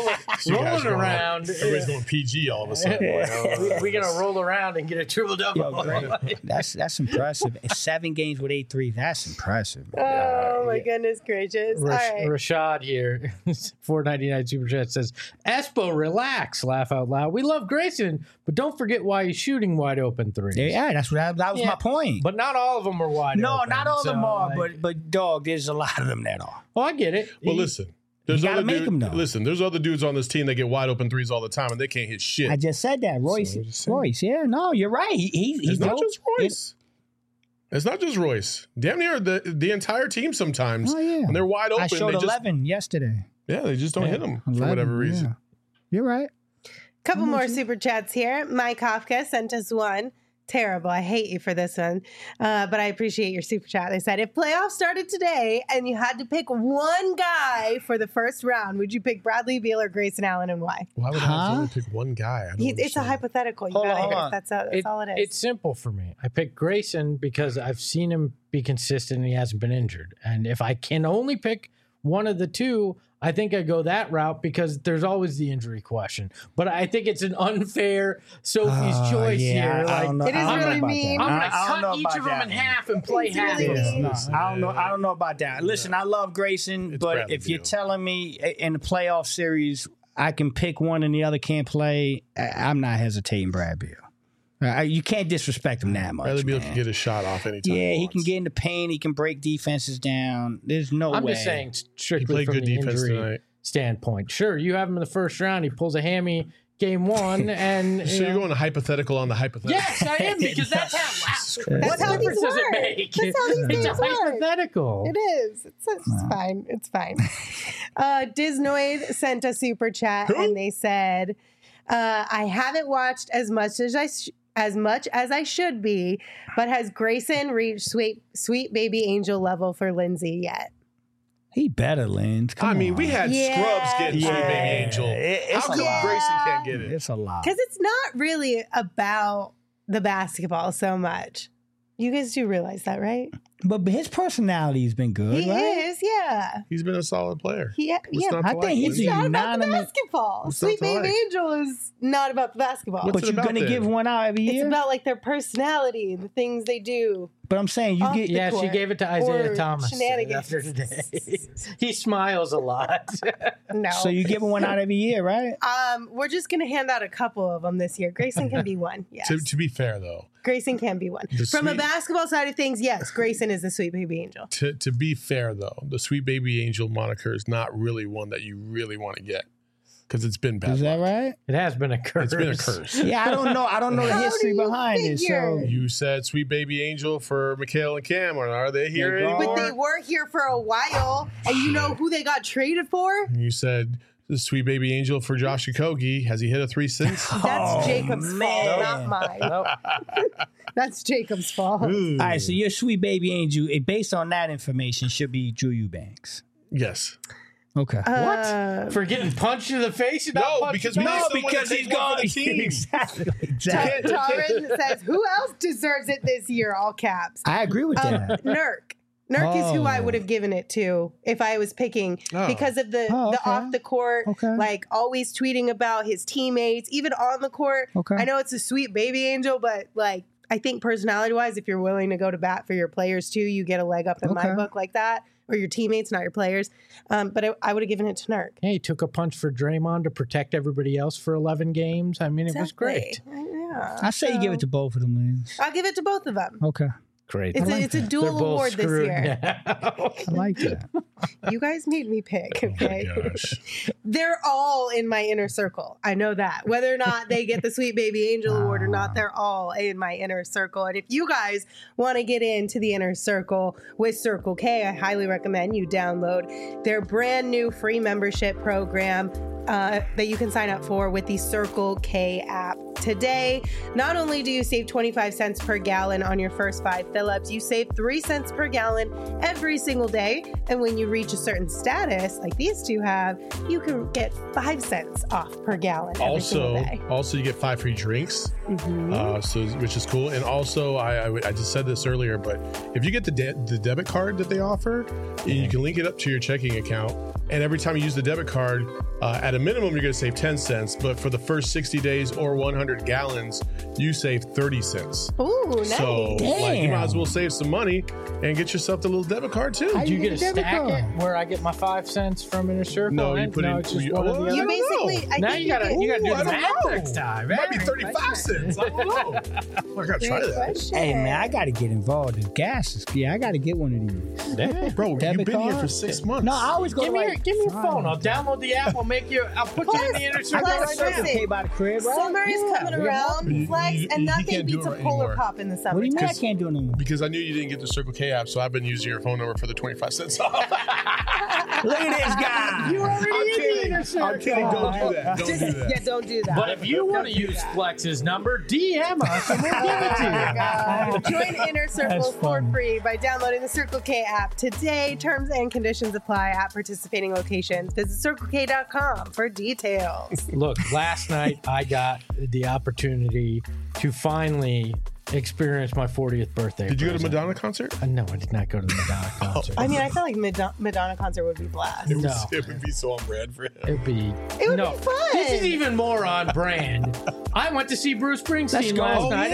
around. Everybody's going PG all of a sudden. We're going to roll around and get a triple-double. That's impressive. 7 games with 8-3. That's impressive. Oh, my goodness gracious. All right. Rashad here, $4.99 super chat says, Espo, relax, laugh out loud. We love Grayson, but don't forget why he's shooting wide open threes. Yeah, that was my point. But not all of them are wide open. No, not all of them are, but dog, there's a lot of them that are. Well, I get it. Well, listen. There's other dudes on this team that get wide open threes all the time, and they can't hit shit. I just said that. Royce, yeah, no, you're right. He's not just Royce. It's not just Royce. Damn near the entire team sometimes. Oh, yeah. When they're wide open. I showed 11 yesterday. Yeah, they just don't hit them for whatever reason. Yeah. You're right. Couple more super chats here. Mike Kafka sent us one. Terrible. I hate you for this one. But I appreciate your super chat. They said, if playoffs started today and you had to pick one guy for the first round, would you pick Bradley Beal or Grayson Allen and why? Why would I only pick one guy? It's a hypothetical. Hold on. That's all it is. It's simple for me. I picked Grayson because I've seen him be consistent and he hasn't been injured. And if I can only pick one of the two, I think I go that route because there's always the injury question. But I think it's an unfair Sophie's choice here. I don't know. It is I don't know really about mean. that. I'm I don't know gonna cut each about of them that in one. half and play half. really mean. No, I don't know about that. Listen, I love Grayson, It's but Bradley if you're Beal. telling me in the playoff series I can pick one and the other can't play, I'm not hesitating Brad Beal. You can't disrespect him that much. Bradley Beal man. can get a shot off anytime. Yeah, he wants. can get in the paint. He can break defenses down. There's no way. I'm just saying He strictly played from good the defense injury tonight. standpoint. Sure, you have him in the first round. He pulls a hammy game one, and So you're going to hypothetical on the hypothetical. Yes, I am because that's how. That's What how these difference does it work. make? That's how these It's a games work. hypothetical. It is. It's fine. It's fine. Disnoid sent a super chat and they said, "I haven't watched as much as I should be, but has Grayson reached sweet baby angel level for Lindsay yet?" He better, Lynn. Come I mean, on. we had Yeah. scrubs getting Sweet Baby Angel. It's How a come lot. Grayson can't get it? It's a lot. Because it's not really about the basketball so much. You guys do realize that, right? But his personality's been good, He right? is, yeah. He's been a solid player. Yeah. Not I to think like, he's Lindsay? It's not about the unanimous. basketball. What's Sweet not to Baby like? Angel is not about the basketball. What's But it you're about gonna then? give one out every It's year. about like their personality, the things they do. But I'm saying you Off get. the Yeah, she court. gave it to Isaiah Or Thomas shenanigans. after today. He smiles a lot. No. So you giving one out every year, right? We're just gonna hand out a couple of them this year. Grayson can be one. Yes. To be fair, though, Grayson can be one. The From a sweet- basketball side of things, yes, Grayson is the Sweet Baby Angel. to be fair though, the Sweet Baby Angel moniker is not really one that you really want to get because it's been bad. Is that luck. right? It has been a curse. It's been a curse. Yeah, I don't know. I don't know the How do history you behind it. figure? So You said Sweet Baby Angel for Mikhail and Cam, or are they here They're gone. anymore? But they were here for a while, and you know who they got traded for? You said the Sweet Baby Angel for Josh Okogie. Has he hit a 3 since? That's Jacob's fault, not mine. That's Jacob's fault. all right, so your sweet baby angel, based on that information, should be Drew Eubanks. Yes. Okay. What? For getting punched in the face? And not No, punched because back? we need no, someone because to he's take one gone. for the team. Exactly. Taryn says, "Who else deserves it this year?" All caps. I agree with that. Nurk. Nurk is who I Oh. would have given it to if I was picking Oh. because of the Oh, okay. off the court, Okay. like always tweeting about his teammates, even on the court. Okay. I know it's a sweet baby angel, but like I think personality wise, if you're willing to go to bat for your players too, you get a leg up in my Okay. book like that, or your teammates, not your players. But I would have given it to Nurk. Hey, he took a punch for Draymond to protect everybody else for 11 games. I mean, it was great. Yeah. I say you give it to both of them, Lynn. I'll give it to both of them. Okay. Great. It's a They're dual both award this screwed year. now. I like that. You guys made me pick. Oh my Okay. gosh. They're all in my inner circle. I know that. Whether or not they get the Sweet Baby Angel Award or not, they're all in my inner circle. And if you guys want to get into the inner circle with Circle K, I highly recommend you download their brand new free membership program that you can sign up for with the Circle K app today. Not only do you save 25 cents per gallon on your first 5 fill-ups, you save 3 cents per gallon every single day. And when you reach a certain status, like these two have, you can get 5 cents off per gallon every single day. Also, you get 5 free drinks, which is cool. And also, I just said this earlier, but if you get the debit card that they offer, you can link it up to your checking account. And every time you use the debit card, at a minimum, you're going to save 10 cents. But for the first 60 days or 100 gallons, you save 30 cents. Ooh, nice. So, like, you might as Damn. well save some money and get yourself the little debit card too. How Do you You get get a a debit stack card. it where I get my 5 cents from Inner Circle? No, you And- put it. it's just you, one or the well, other. You I don't know. basically, Now you gotta do I the don't math know. next time. It might be Very 35 cents. I don't know. I gotta try Great that. question. Hey, man, I got to get involved. The gas is, I got to get one of these. Yeah. Bro, you've Debit been here card? for 6 months. No, I always go Give to me like, your phone. I'll download the app. I'll put you in the Inner I Circle got Plus, a right Circle now. K by the crib, right? Summer is coming we got around, You- Flex, you- and you nothing can't do beats a it Polar anymore. Pop in the summer. What do you mean I 'Cause- can't do it no more? Because I knew you didn't get the Circle K app, so I've been using your phone number for the 25 cents off. Look at this guy. You already I'm in the kidding. Inner Circle. I'm kidding. Don't do that. Don't do that. Yeah, don't do that. But if you want to Don't do use that. Flex's number, DM us and we'll give it to you. Join Inner Circle That's for funny. free by downloading the Circle K app today. Terms and conditions apply at participating locations. Visit CircleK.com for details. Look, last night I got the opportunity to finally experience my 40th birthday. Did you go to Madonna concert? No, I did not go to the Madonna concert. I mean, I feel like Madonna concert would be blast. It would be so on brand for him. It would be fun. This is even more on brand. I went to see Bruce Springsteen last night.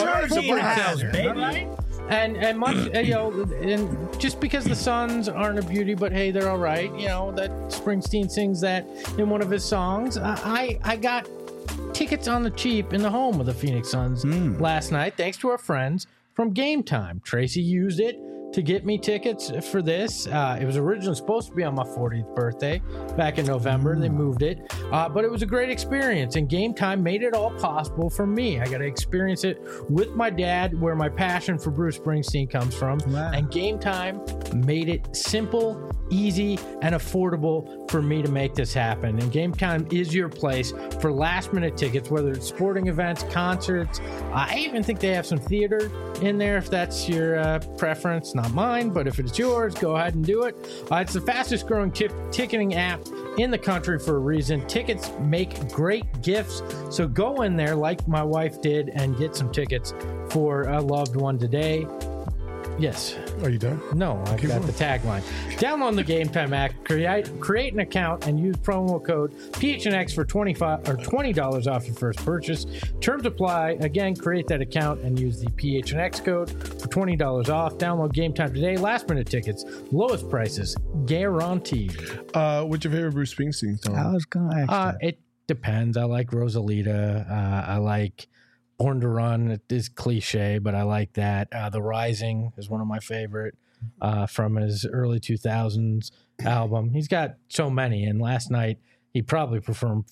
Baby. And much, and just because the Suns aren't a beauty, but hey, they're all right. That Springsteen sings that in one of his songs. I got tickets on the cheap in the home of the Phoenix Suns last night, thanks to our friends from Game Time. Tracy used it to get me tickets for this. It was originally supposed to be on my 40th birthday back in November. They moved it. But it was a great experience, and Game Time made it all possible for me. I got to experience it with my dad, where my passion for Bruce Springsteen comes from. Wow. And Game Time made it simple, easy, and affordable for me to make this happen. And Game Time is your place for last-minute tickets, whether it's sporting events, concerts. I even think they have some theater in there if that's your preference. Not mine, but if it's yours, go ahead and do it. It's the fastest growing ticketing app in the country for a reason. Tickets make great gifts, so go in there like my wife did and get some tickets for a loved one today. Yes. Are you done? No, I've got the tagline. Download the Game Time app, create an account, and use promo code PHNX for $20 off your first purchase. Terms apply. Again, create that account and use the PHNX code for $20 off. Download Game Time today. Last minute tickets, lowest prices, guaranteed. What's your favorite Bruce Springsteen song? I was going to ask that. It depends. I like Rosalita. I like Born to Run. It is cliche, but I like that. The Rising is one of my favorite from his early 2000s album. He's got so many, and last night he probably performed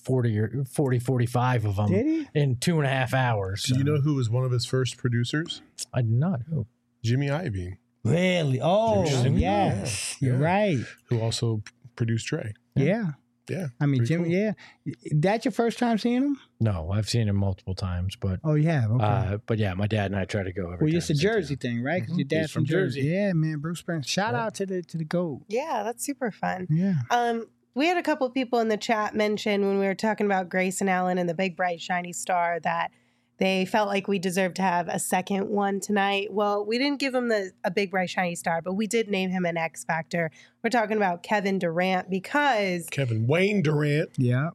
45 of them in 2.5 hours. Do you know who was one of his first producers? I did not know. Jimmy Iovine. Really? Oh, yes. You're right. Who also produced Dre. Yeah. Yeah. I mean, Jimmy, cool. yeah. That your first time seeing him? No, I've seen him multiple times, but yeah, okay. But yeah, my dad and I try to go every time. Well, it's a Jersey thing, right? Because your dad's from Jersey. Yeah, man, Bruce Springsteen. Shout out to the GOAT. Yeah, that's super fun. Yeah. We had a couple of people in the chat mention when we were talking about Grayson Allen and the big bright shiny star that they felt like we deserved to have a second one tonight. Well, we didn't give him a big, bright, shiny star, but we did name him an X Factor. We're talking about Kevin Durant because... Kevin Wayne Durant. Yeah.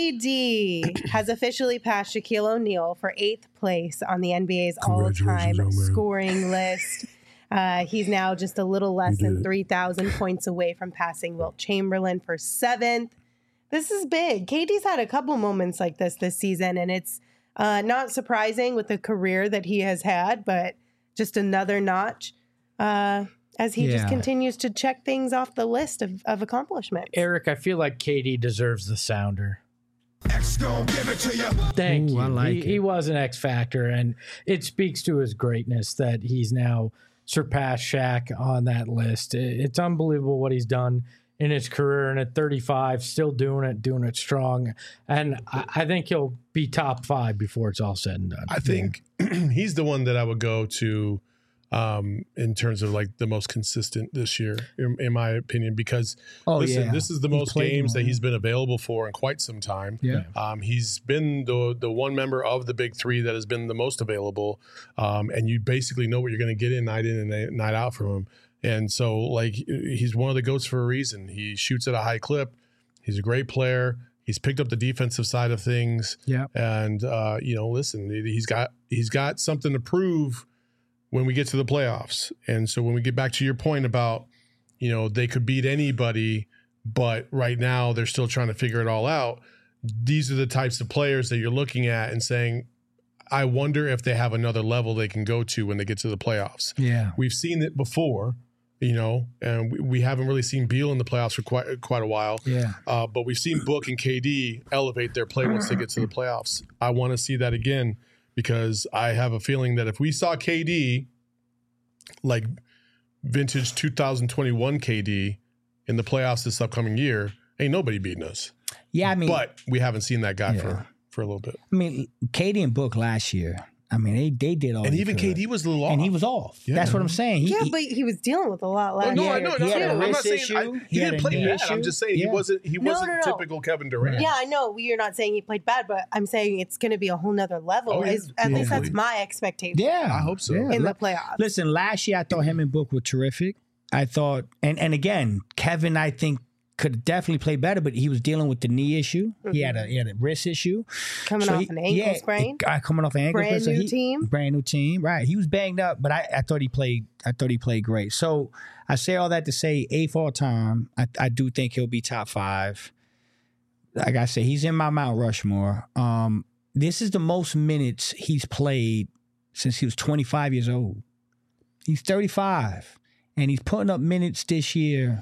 KD has officially passed Shaquille O'Neal for 8th place on the NBA's all-time scoring list. He's now just a little less than 3,000 points away from passing Wilt Chamberlain for 7th. This is big. KD's had a couple moments like this season, and it's not surprising with the career that he has had, but just another notch as he just continues to check things off the list of accomplishments. Eric, I feel like KD deserves the sounder. X gon' give it to you. Thank you. I like it. He was an X factor, and it speaks to his greatness that he's now surpassed Shaq on that list. It's unbelievable what he's done in his career, and at 35, still doing it strong. And I think he'll be top 5 before it's all said and done. I think he's the one that I would go to in terms of like the most consistent this year, in my opinion, because this is the most games that he's been available for in quite some time. Yeah. He's been the one member of the big three that has been the most available. And you basically know what you're going to get in and night out from him. And so, like, he's one of the GOATs for a reason. He shoots at a high clip. He's a great player. He's picked up the defensive side of things. Yeah. And, listen, he's got something to prove when we get to the playoffs. And so when we get back to your point about, they could beat anybody, but right now they're still trying to figure it all out. These are the types of players that you're looking at and saying, I wonder if they have another level they can go to when they get to the playoffs. Yeah. We've seen it before. And we haven't really seen Beal in the playoffs for quite a while. Yeah. But we've seen Book and KD elevate their play once they get to the playoffs. I want to see that again because I have a feeling that if we saw KD, like vintage 2021 KD, in the playoffs this upcoming year, ain't nobody beating us. Yeah, I mean, but we haven't seen that guy for a little bit. I mean, KD and Book last year. I mean, they did all. And they even could. KD was a little off. And he was off. Yeah. That's what I'm saying. But he was dealing with a lot last No, year. I know. He had a I'm not wrist saying issue. he didn't play bad. issue. I'm just saying he wasn't typical Kevin Durant. Yeah, I know you're not saying he played bad, but I'm saying it's going to be a whole nother level. Oh, yeah. At least that's Hopefully. my expectation. Yeah, I hope so. Yeah. In the playoffs. Listen, last year I thought him and Book were terrific. I thought, and again, Kevin, I think could definitely play better, but he was dealing with the knee issue. Mm-hmm. He had a wrist issue. Coming off an ankle sprain. Coming off an ankle sprain. Brand new team. Right. He was banged up, but I thought he played great. So I say all that to say 8th all time. I do think he'll be top 5. Like I said, he's in my Mount Rushmore. This is the most minutes he's played since he was 25 years old. He's 35, and he's putting up minutes this year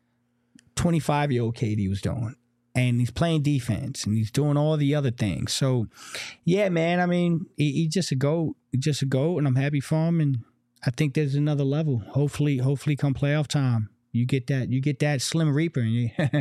25-year-old KD was doing. And he's playing defense, and he's doing all the other things. So, yeah, man, I mean, he's just a GOAT. And I'm happy for him, and I think there's another level. Hopefully come playoff time, you get that Slim Reaper, and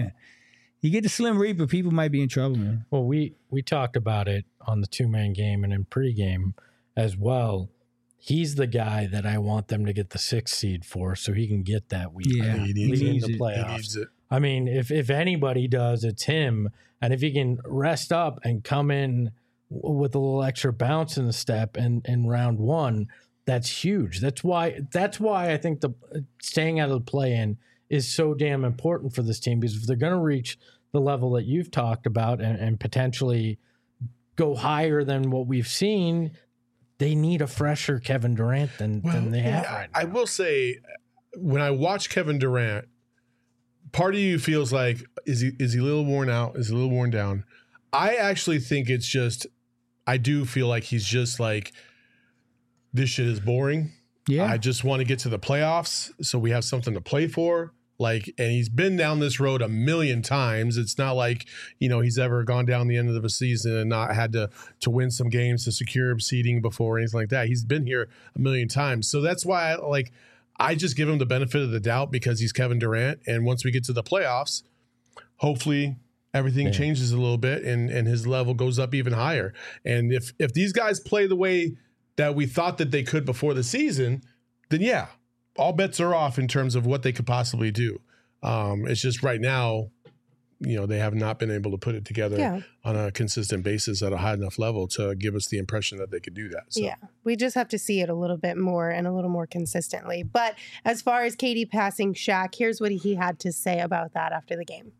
you get the Slim Reaper, people might be in trouble, man. Well, we talked about it on the 2-man game and in pregame as well. He's the guy that I want them to get the 6th seed for, so he can get that week. Yeah, in the playoffs. He needs it. I mean, if anybody does, it's him. And if he can rest up and come in with a little extra bounce in the step in round 1, that's huge. That's why I think the staying out of the play-in is so damn important for this team, because if they're going to reach the level that you've talked about and potentially go higher than what we've seen, they need a fresher Kevin Durant than they have right now. I will say, when I watch Kevin Durant, part of you feels like, is he a little worn out? Is he a little worn down? I actually think it's just, I do feel like he's just like, this shit is boring. Yeah. I just want to get to the playoffs so we have something to play for. Like, and he's been down this road a million times. It's not like, he's ever gone down the end of a season and not had to win some games to secure seeding before or anything like that. He's been here a million times. So that's why I just give him the benefit of the doubt because he's Kevin Durant. And once we get to the playoffs, hopefully everything changes a little bit and his level goes up even higher. And if these guys play the way that we thought that they could before the season, then yeah, all bets are off in terms of what they could possibly do. It's just right now, they have not been able to put it together on a consistent basis at a high enough level to give us the impression that they could do that. So. Yeah, we just have to see it a little bit more and a little more consistently. But as far as KD passing Shaq, here's what he had to say about that after the game.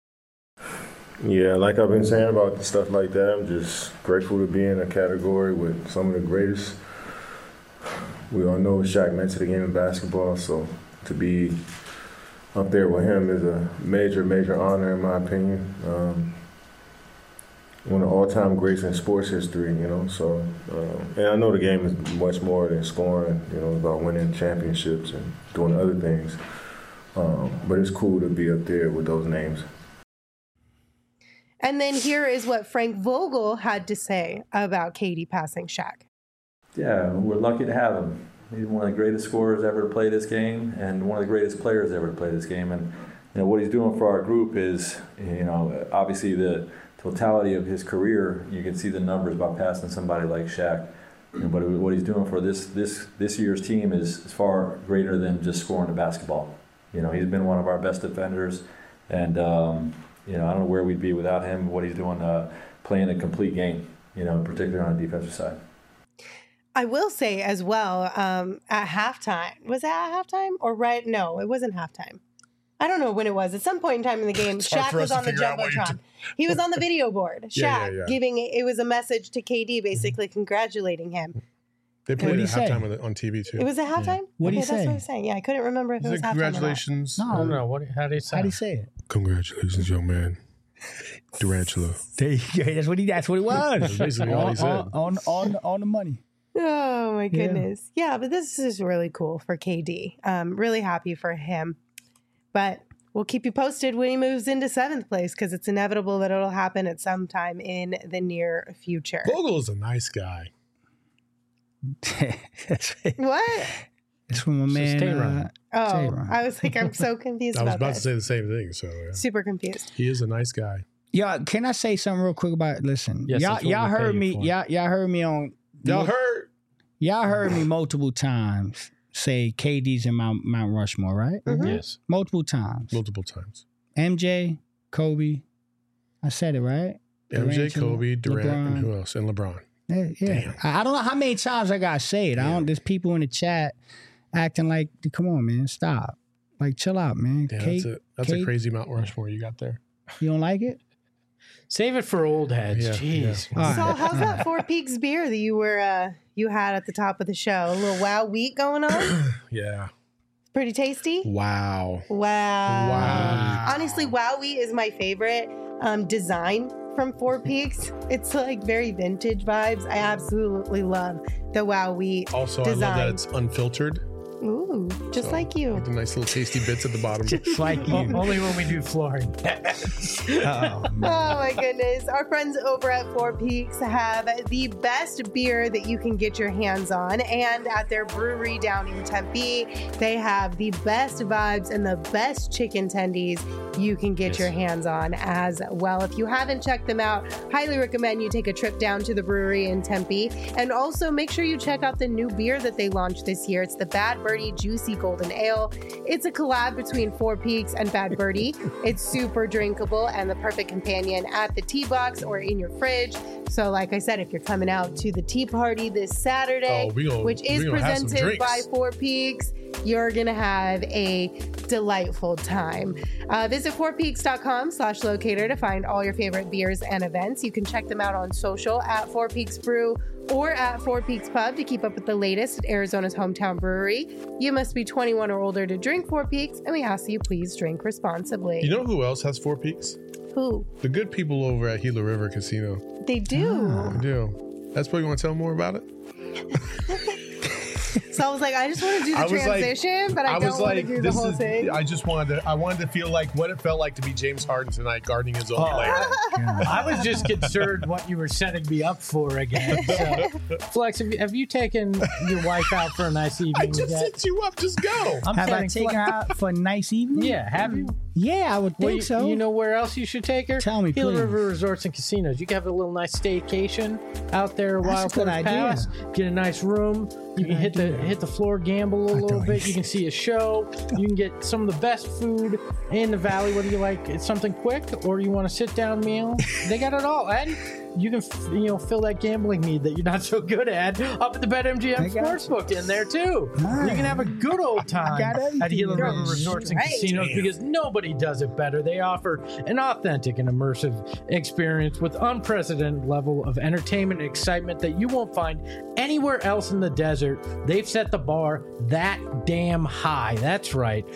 Yeah, like I've been saying about stuff like that, I'm just grateful to be in a category with some of the greatest. We all know what Shaq meant to the game of basketball, so to be up there with him is a major, major honor in my opinion. One of the all-time greats in sports history, so, and I know the game is much more than scoring, about winning championships and doing other things, but it's cool to be up there with those names. And then here is what Frank Vogel had to say about KD passing Shaq. Yeah, we're lucky to have him. He's one of the greatest scorers ever to play this game and one of the greatest players ever to play this game. And what he's doing for our group is, obviously the totality of his career, you can see the numbers by passing somebody like Shaq. But what he's doing for this year's team is far greater than just scoring the basketball. He's been one of our best defenders, and I don't know where we'd be without him. What he's doing, playing a complete game, particularly on the defensive side. I will say as well, at halftime, was it at halftime or right? No, it wasn't halftime. I don't know when it was. At some point in time in the game, Shaq was on the Jumbotron. He was on the video board. Shaq giving it was a message to KD, basically congratulating him. They played it at halftime on TV too. It was at halftime? What did he say? That's what I was saying. Yeah, I couldn't remember if it was halftime. Congratulations. I don't know. How did he say? How did he say it? Congratulations, young man. Durantula. There you go. That's what it was. That's basically all he said. On the money. Oh my goodness. Yeah, but this is really cool for KD. Really happy for him. But we'll keep you posted when he moves into 7th place because it's inevitable that it'll happen at some time in the near future. Vogel is a nice guy. What? It's from my man. I was like, I'm so confused I was about about to say the same thing. So super confused. He is a nice guy. Yeah, can I say something real quick about? Listen, yes, y'all heard me. Y'all heard me on Y'all heard? Y'all heard me multiple times say KD's in Mount Rushmore, right? Mm-hmm. Yes. Multiple times. MJ, Kobe. I said it, right? MJ, Kobe, Durant, LeBron. and who else? And LeBron. Yeah. I don't know how many times I gotta say it. There's people in the chat acting like, come on, man, stop. Like, chill out, man. Yeah, that's a crazy Mount Rushmore you got there. You don't like it? Save it for old heads. Jeez. Yeah. So how's that Four Peaks beer that you had at the top of the show? A little Wow Wheat going on? Yeah. Pretty tasty? Wow. Honestly, Wow Wheat is my favorite design from Four Peaks. It's like very vintage vibes. I absolutely love the Wow Wheat design. I love that it's unfiltered. Ooh, just like you. With the nice little tasty bits at the bottom. Just like you. Only when we do flooring. Oh my goodness. Our friends over at Four Peaks have the best beer that you can get your hands on. And at their brewery down in Tempe, they have the best vibes and the best chicken tendies you can get your hands on as well. If you haven't checked them out, highly recommend you take a trip down to the brewery in Tempe. And also make sure you check out the new beer that they launched this year. It's the Bad Birdie Juicy Golden Ale. It's a collab between Four Peaks and Bad Birdie. It's super drinkable and the perfect companion at the tea box or in your fridge. So like I said, if you're coming out to the tea party this Saturday, which is presented by Four Peaks, you're going to have a delightful time. Visit fourpeaks.com/locator to find all your favorite beers and events. You can check them out on social at Four Peaks Brew or at Four Peaks Pub to keep up with the latest at Arizona's hometown brewery. You must be 21 or older to drink Four Peaks, and we ask that you please drink responsibly. You know who else has Four Peaks? Who? The good people over at Gila River Casino. They do. They do. That's why you want to tell them more about it? So I was like, I just want to do the transition, but I don't want to do the whole thing. I wanted to feel like what it felt like to be James Harden tonight, guarding his own player. I was just concerned what you were setting me up for again. So, Flex, have you taken your wife out for a nice evening? I just set you up. Just go. Have I taken her out for a nice evening? Yeah, have you? Yeah, I would think so. You know where else you should take her? Tell me, Gila please. River Resorts and Casinos. You can have a little nice staycation out there. That's a good idea. Pass. Get a nice room. You can hit the floor, gamble a little bit. You can see a show. You can get some of the best food in the valley. Whether you like it's something quick or you want a sit down meal, they got it all. And you can fill that gambling need that you're not so good at up at the BetMGM Sportsbook in there too. Man. You can have a good old time at Gila River Resorts and Casinos because nobody does it better. They offer an authentic and immersive experience with unprecedented level of entertainment and excitement that you won't find anywhere else in the desert. They've set the bar that damn high. That's right.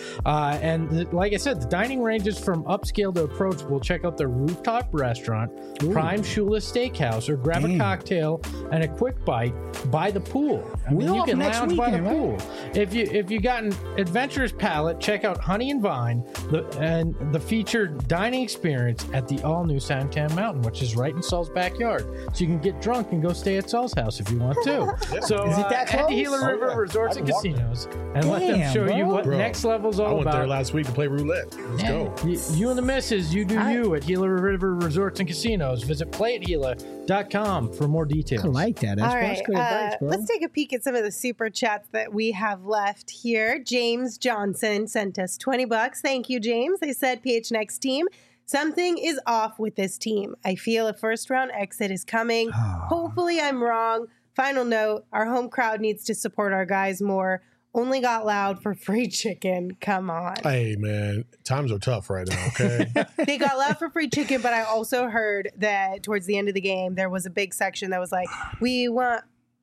Like I said, the dining ranges from upscale to approachable. Check out their rooftop restaurant, Prime Shula Steakhouse, or grab a cocktail and a quick bite by the pool. I mean, you can lounge by the pool. If you got an adventurous palate, check out Honey and Vine, the featured dining experience at the all-new Sandtown Mountain, which is right in Saul's backyard. So you can get drunk and go stay at Saul's house if you want to. So is it that close? Head to Gila River Resorts and Casinos and let them show you what next level's all about. I went there last week to play roulette. Let's go. You and the missus, you do you at Gila River Resorts and Casinos. Visit playatgila.com for more details. I like that. That's good advice, bro. Let's take a peek at some of the super chats that we have left here. James Johnson sent us $20. Thank you, James. They said, PH Next team, something is off with this team. I feel a first round exit is coming. Hopefully I'm wrong. Final note, our home crowd needs to support our guys more. Only got loud for free chicken. Come on. Hey, man. Times are tough right now, okay? They got loud for free chicken, but I also heard that towards the end of the game, there was a big section that was like, we want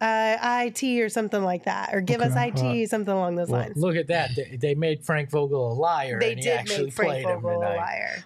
IT or something like that, or give us IT, something along those lines. Look at that. They made Frank Vogel a liar. They and he did actually make Frank played Vogel him a liar.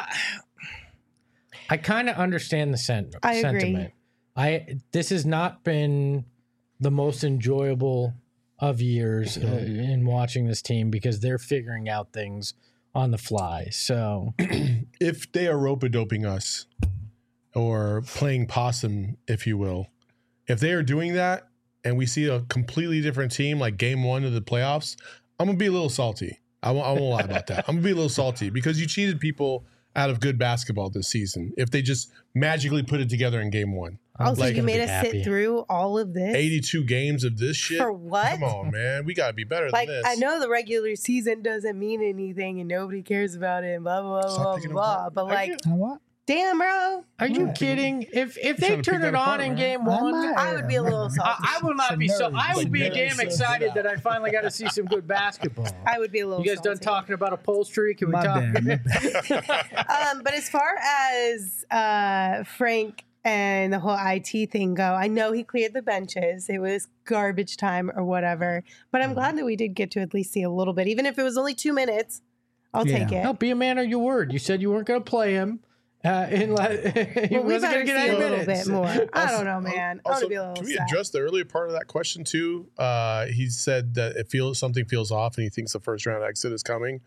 I kind of understand the sentiment. I agree. This has not been the most enjoyable of years in watching this team because they're figuring out things on the fly. So if they are rope-a-doping us or playing possum, if you will, if they are doing that and we see a completely different team like game one of the playoffs, I'm going to be a little salty. I won't lie about that. I'm going to be a little salty because you cheated people out of good basketball this season if they just magically put it together in game one. Also, you made us sit through all of this? 82 games of this shit? For what? Come on, man. We got to be better than this. I know the regular season doesn't mean anything and nobody cares about it and blah, blah, blah, blah, blah. But what? Damn, bro. Are you kidding? If they turn it on in game one, I would be a little salty. I will not be so. I would be damn excited that I finally got to see some good basketball. I would be a little You guys done talking about upholstery? Can we talk? But as far as Frank and the whole IT thing go, I know he cleared the benches. It was garbage time or whatever. But I'm glad that we did get to at least see a little bit. Even if it was only 2 minutes, I'll take it. No, be a man of your word. You said you weren't going to play him. He wasn't going to get any minutes. A little bit more. I don't know, man. I want to be a little Can we sad. address the earlier part of that question too? He said that something feels off and he thinks the first round exit is coming.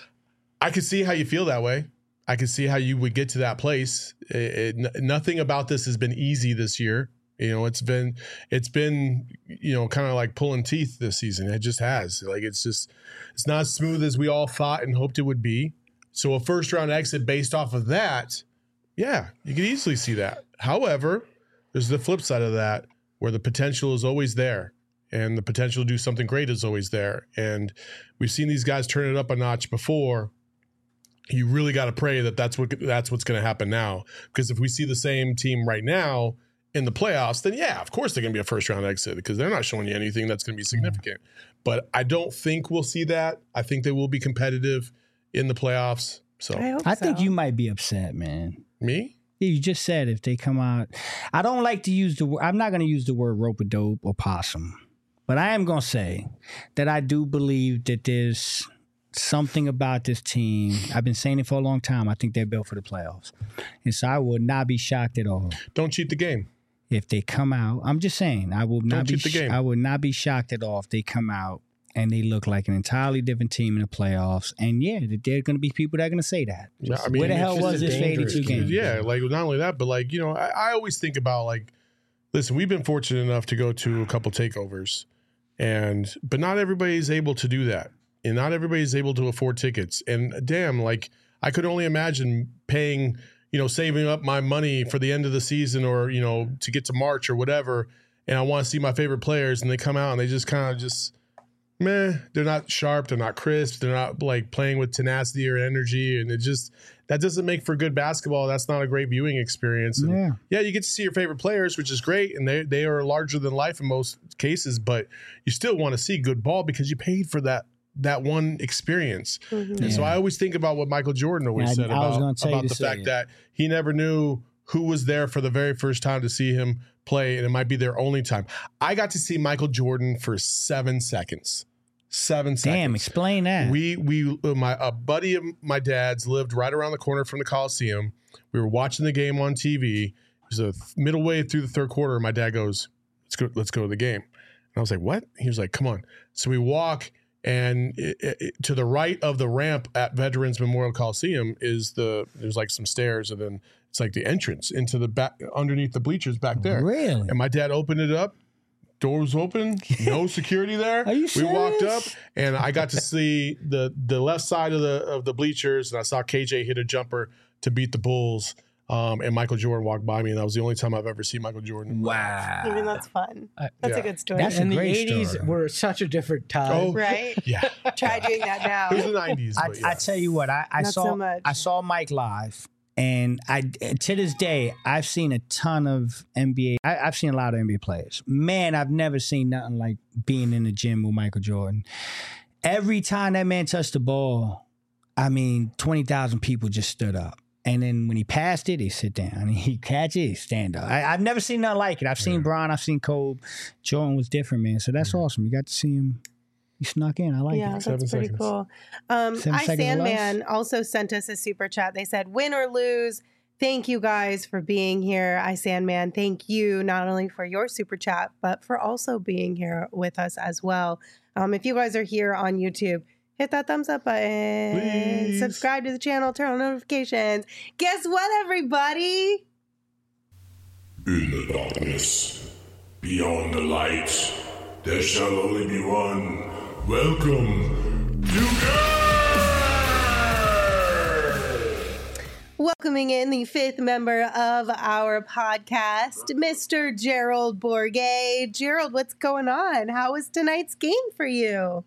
I could see how you feel that way. I could see how you would get to that place. Nothing about this has been easy this year. You know, it's been kind of like pulling teeth this season. It just has. It's not as smooth as we all thought and hoped it would be. So a first round exit based off of that, yeah, you could easily see that. However, there's the flip side of that where the potential is always there and the potential to do something great is always there. And we've seen these guys turn it up a notch before. You really got to pray that that's what's going to happen now. Because if we see the same team right now in the playoffs, then yeah, of course they're going to be a first round exit because they're not showing you anything that's going to be significant. But I don't think we'll see that. I think they will be competitive in the playoffs. So I think you might be upset, man. Me? Yeah, you just said if they come out. I don't like to use the word. I'm not going to use the word rope-a-dope or possum. But I am going to say that I do believe that there's something about this team. I've been saying it for a long time. I think they're built for the playoffs. And so I would not be shocked at all. Don't cheat the game. If they come out, I'm just saying, I will not cheat the game. I would not be shocked at all if they come out and they look like an entirely different team in the playoffs. And yeah, there are going to be people that are going to say that. Where the hell was this for 82 games? Yeah, not only that, but I always think about listen, we've been fortunate enough to go to a couple takeovers, but not everybody's able to do that. And not everybody's able to afford tickets. And damn, I could only imagine paying, saving up my money for the end of the season or, to get to March or whatever. And I want to see my favorite players and they come out and they just kind of meh, they're not sharp, they're not crisp, they're not playing with tenacity or energy, and that doesn't make for good basketball. That's not a great viewing experience. And yeah, you get to see your favorite players, which is great, and they are larger than life in most cases, but you still want to see good ball because you paid for that one experience. Mm-hmm. And so I always think about what Michael Jordan always said about the fact that he never knew who was there for the very first time to see him play, and it might be their only time. I got to see Michael Jordan for 7 seconds. 7 seconds. Damn, explain that. A buddy of my dad's lived right around the corner from the Coliseum. We were watching the game on TV. It was a middle way through the third quarter. My dad goes, let's go to the game. And I was like, what? He was like, come on. So we walk, and to the right of the ramp at Veterans Memorial Coliseum there's some stairs, and then it's the entrance into the back underneath the bleachers back there. Really? And my dad opened it up. Doors open, no security there. Are you serious? We walked up, and I got to see the left side of the bleachers, and I saw KJ hit a jumper to beat the Bulls. And Michael Jordan walked by me, and that was the only time I've ever seen Michael Jordan. Wow. I mean, that's fun. That's a good story. That's and a the great 80s story. were such a different time. Right? Yeah. Try doing that now. It was the 90s. I tell you what, I saw Mike live. And to this day, I've seen a ton of NBA. I've seen a lot of NBA players. Man, I've never seen nothing like being in the gym with Michael Jordan. Every time that man touched the ball, 20,000 people just stood up. And then when he passed it, they sit down. And he catch it, stand up. I've never seen nothing like it. I've seen Bron, I've seen Kobe. Jordan was different, man. So that's awesome. You got to see him. He snuck in. I like it. Yeah, that's pretty cool. Sandman also sent us a super chat. They said, win or lose, thank you guys for being here. Sandman, thank you not only for your super chat, but for also being here with us as well. If you guys are here on YouTube, hit that thumbs up button. Please. Subscribe to the channel. Turn on notifications. Guess what, everybody? In the darkness, beyond the light, there shall only be one. Welcome to Welcoming in the fifth member of our podcast, Mr. Gerald Bourguet. Gerald, what's going on? How was tonight's game for you?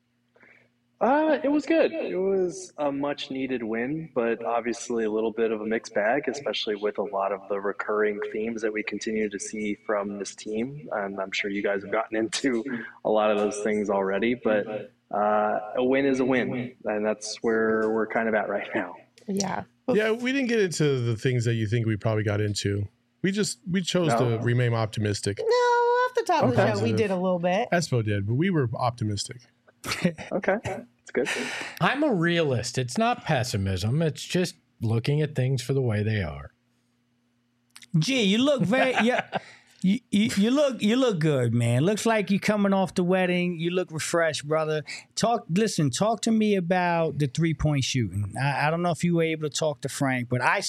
It was good. It was a much needed win, but obviously a little bit of a mixed bag, especially with a lot of the recurring themes that we continue to see from this team. And I'm sure you guys have gotten into a lot of those things already, but a win is a win. And that's where we're kind of at right now. Yeah. Yeah, we didn't get into the things that you think we probably got into. We chose to remain optimistic. No, off the top of the show, we did a little bit. Espo did, but we were optimistic. Okay, that's good. I'm a realist. It's not pessimism. It's just looking at things for the way they are. Gee, you look very you look good, man. Looks like you coming off the wedding. You look refreshed, brother. Talk to me about the 3-point shooting. I don't know if you were able to talk to Frank, but I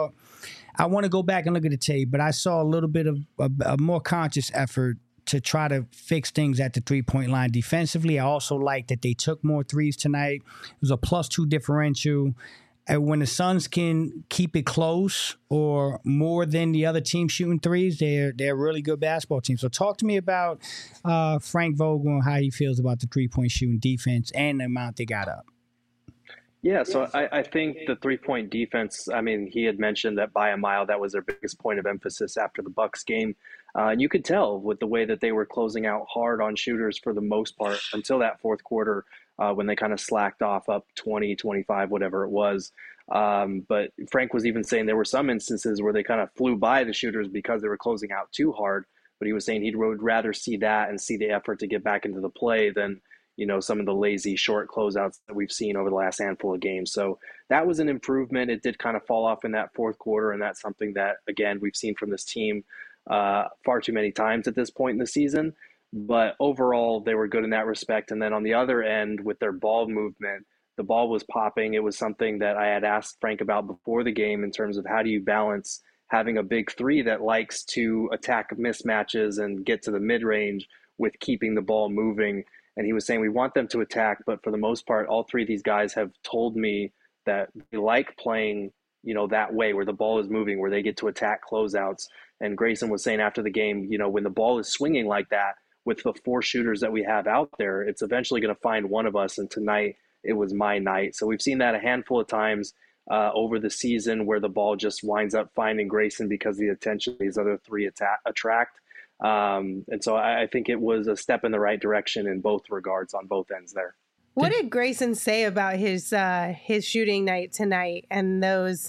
want to go back and look at the tape, but I saw a little bit of a more conscious effort to try to fix things at the 3-point line defensively. I also like that they took more threes tonight. It was a +2 differential. And when the Suns can keep it close or more than the other team shooting threes, they're a really good basketball team. So talk to me about Frank Vogel and how he feels about the 3-point shooting defense and the amount they got up. Yeah, so I think the 3-point defense, I mean, he had mentioned that by a mile, that was their biggest point of emphasis after the Bucks game. And you could tell with the way that they were closing out hard on shooters for the most part until that fourth quarter when they kind of slacked off up 20, 25, whatever it was. But Frank was even saying there were some instances where they kind of flew by the shooters because they were closing out too hard. But he was saying he would rather see that and see the effort to get back into the play than some of the lazy short closeouts that we've seen over the last handful of games. So that was an improvement. It did kind of fall off in that fourth quarter, and that's something that, again, we've seen from this team far too many times at this point in the season. But overall, they were good in that respect. And then on the other end, with their ball movement, the ball was popping. It was something that I had asked Frank about before the game in terms of how do you balance having a big three that likes to attack mismatches and get to the mid-range with keeping the ball moving. And he was saying we want them to attack, but for the most part, all three of these guys have told me that they like playing, that way where the ball is moving, where they get to attack closeouts. And Grayson was saying after the game, when the ball is swinging like that with the 4 shooters that we have out there, it's eventually going to find one of us. And tonight it was my night. So we've seen that a handful of times over the season where the ball just winds up finding Grayson because of the attention these other 3 attract. And so I think it was a step in the right direction in both regards on both ends there. What did Grayson say about his shooting night tonight and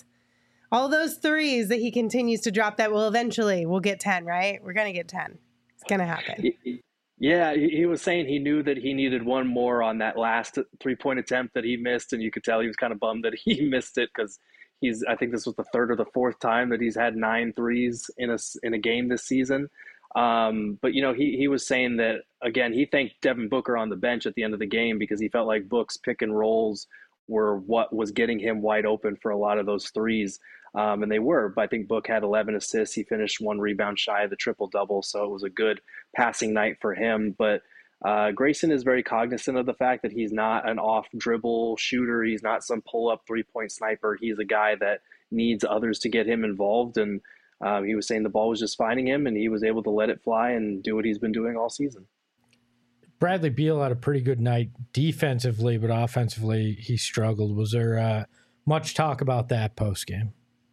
all those threes that he continues to drop that we'll get 10, right? We're going to get 10. It's going to happen. Yeah, he was saying he knew that he needed one more on that last 3-point attempt that he missed. And you could tell he was kind of bummed that he missed it because I think this was the 3rd or the 4th time that he's had 9 threes in a game this season. But he was saying that, again, he thanked Devin Booker on the bench at the end of the game because he felt like Book's pick and rolls were what was getting him wide open for a lot of those threes. And they were, but I think Book had 11 assists. He finished 1 rebound shy of the triple-double. So it was a good passing night for him. But Grayson is very cognizant of the fact that he's not an off-dribble shooter. He's not some pull-up 3-point sniper. He's a guy that needs others to get him involved. And he was saying the ball was just finding him, and he was able to let it fly and do what he's been doing all season. Bradley Beal had a pretty good night defensively, but offensively he struggled. Was there much talk about that post-game?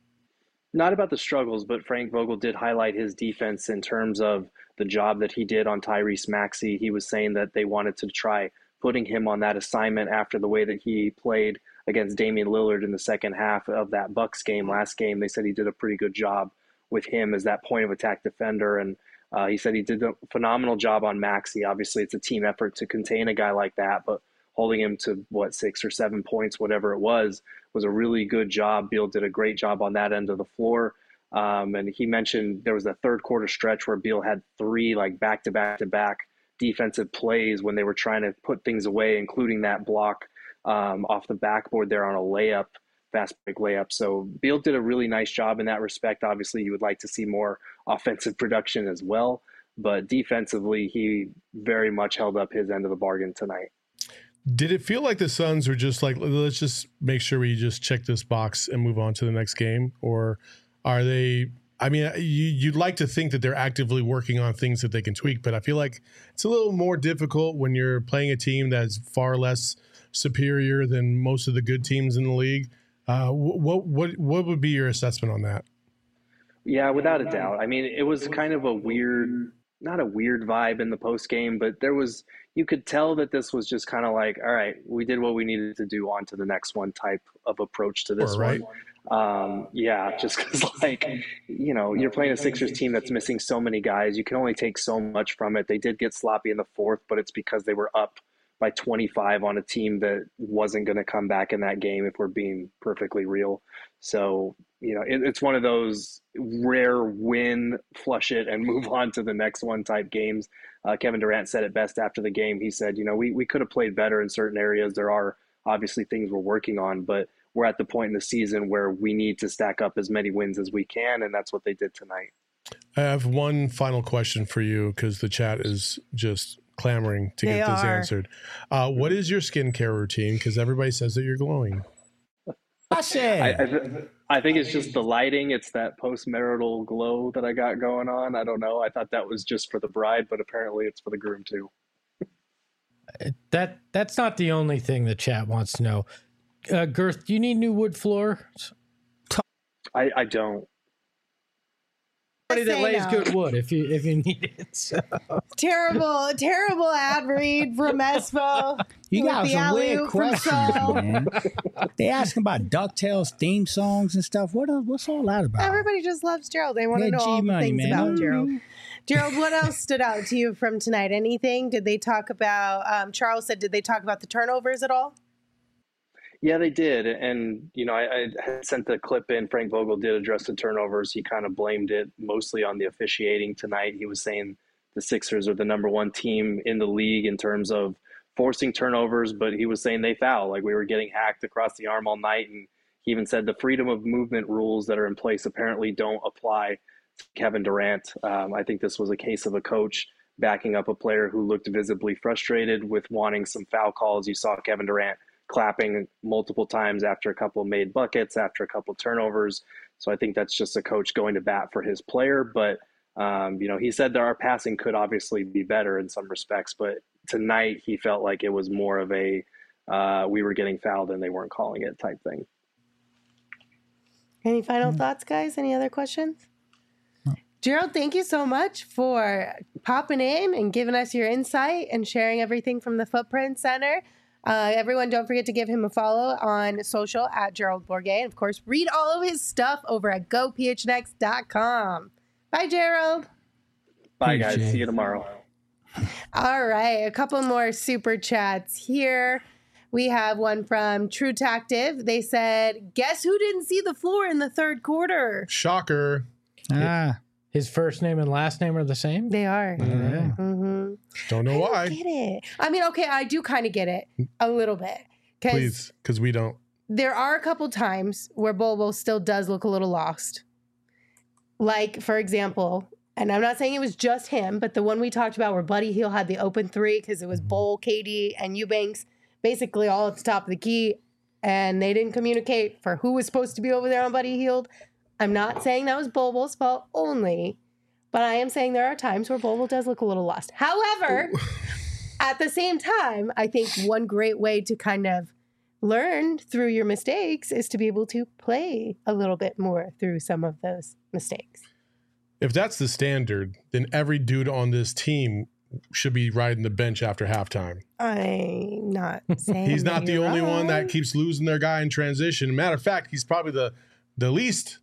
Not about the struggles, but Frank Vogel did highlight his defense in terms of the job that he did on Tyrese Maxey. He was saying that they wanted to try putting him on that assignment after the way that he played against Damian Lillard in the second half of that Bucks game last game. They said he did a pretty good job with him as that point of attack defender. And he said he did a phenomenal job on Maxey. Obviously, it's a team effort to contain a guy like that, but holding him to 6 or 7 points, whatever it was a really good job. Beal did a great job on that end of the floor. And he mentioned there was a third quarter stretch where Beal had 3 back-to-back defensive plays when they were trying to put things away, including that block off the backboard there on a fast break layup. So Beal did a really nice job in that respect. Obviously, you would like to see more offensive production as well, but defensively, he very much held up his end of the bargain tonight. Did it feel like the Suns were just like, let's just make sure we just check this box and move on to the next game? Or are they, I mean, you'd like to think that they're actively working on things that they can tweak, but I feel like it's a little more difficult when you're playing a team that's far less superior than most of the good teams in the league. What would be your assessment on that? Yeah, without a doubt. I mean, it was kind of a weird, not a weird vibe in the post game, but you could tell that this was just kind of like, all right, we did what we needed to do, on to the next one type of approach to this one. Yeah, just because, like, you know, you're playing a Sixers team that's missing so many guys. You can only take so much from it. They did get sloppy in the fourth, but it's because they were up by 25 on a team that wasn't going to come back in that game, if we're being perfectly real. So, you know, it's one of those rare win, flush it, and move on to the next one type games. Kevin Durant said it best after the game. He said, you know, we could have played better in certain areas. There are obviously things we're working on, but we're at the point in the season where we need to stack up as many wins as we can, and that's what they did tonight. I have one final question for you, because the chat is just clamoring to get this answered. What is your skincare routine? Because everybody says that you're glowing. I think it's just the lighting. It's that post-marital glow that I got going on. I don't know. I thought that was just for the bride, but apparently it's for the groom too. That's not the only thing the chat wants to know. Girth, do you need new wood floors? I don't. Somebody that lays good wood if you need it. So. Terrible ad read from Espo. You got some weird questions, man. They asking about DuckTales theme songs and stuff. What's all that about? Everybody just loves Gerald. They want to know all the things about Gerald. Gerald, what else stood out to you from tonight? Anything? Did they talk about, Charles said, did they talk about the turnovers at all? Yeah, they did. And, you know, I had sent the clip in. Frank Vogel did address the turnovers. He kind of blamed it mostly on the officiating tonight. He was saying the Sixers are the number one team in the league in terms of forcing turnovers, but he was saying they foul. Like, we were getting hacked across the arm all night. And he even said the freedom of movement rules that are in place apparently don't apply to Kevin Durant. I think this was a case of a coach backing up a player who looked visibly frustrated with wanting some foul calls. You saw Kevin Durant clapping multiple times after a couple of made buckets, after a couple of turnovers. So I think that's just a coach going to bat for his player. But, you know, he said that our passing could obviously be better in some respects, but tonight he felt like it was more of a we were getting fouled and they weren't calling it type thing. Any final thoughts, guys? Any other questions? No. Gerald, thank you so much for popping in and giving us your insight and sharing everything from the Footprint Center. Everyone, don't forget to give him a follow on social at Gerald Bourguet. And, of course, read all of his stuff over at gophnx.com. Bye, Gerald. Bye, guys. See you tomorrow. All right. A couple more super chats here. We have one from True Tactive. They said, guess who didn't see the floor in the third quarter? Shocker. His first name and last name are the same? They are. Mm-hmm. Don't know why. I get it. I mean, okay, I do kind of get it a little bit. Please, because we don't. There are a couple times where Bobo still does look a little lost. Like, for example, and I'm not saying it was just him, but the one we talked about where Buddy Hield had the open three because it was Bol, KD, and Eubanks basically all at the top of the key, and they didn't communicate for who was supposed to be over there on Buddy Hield. I'm not saying that was Bobo's fault only, but I am saying there are times where Bobo does look a little lost. However, at the same time, I think one great way to kind of learn through your mistakes is to be able to play a little bit more through some of those mistakes. If that's the standard, then every dude on this team should be riding the bench after halftime. I'm not saying he's not the only one that keeps losing their guy in transition. Matter of fact, he's probably the least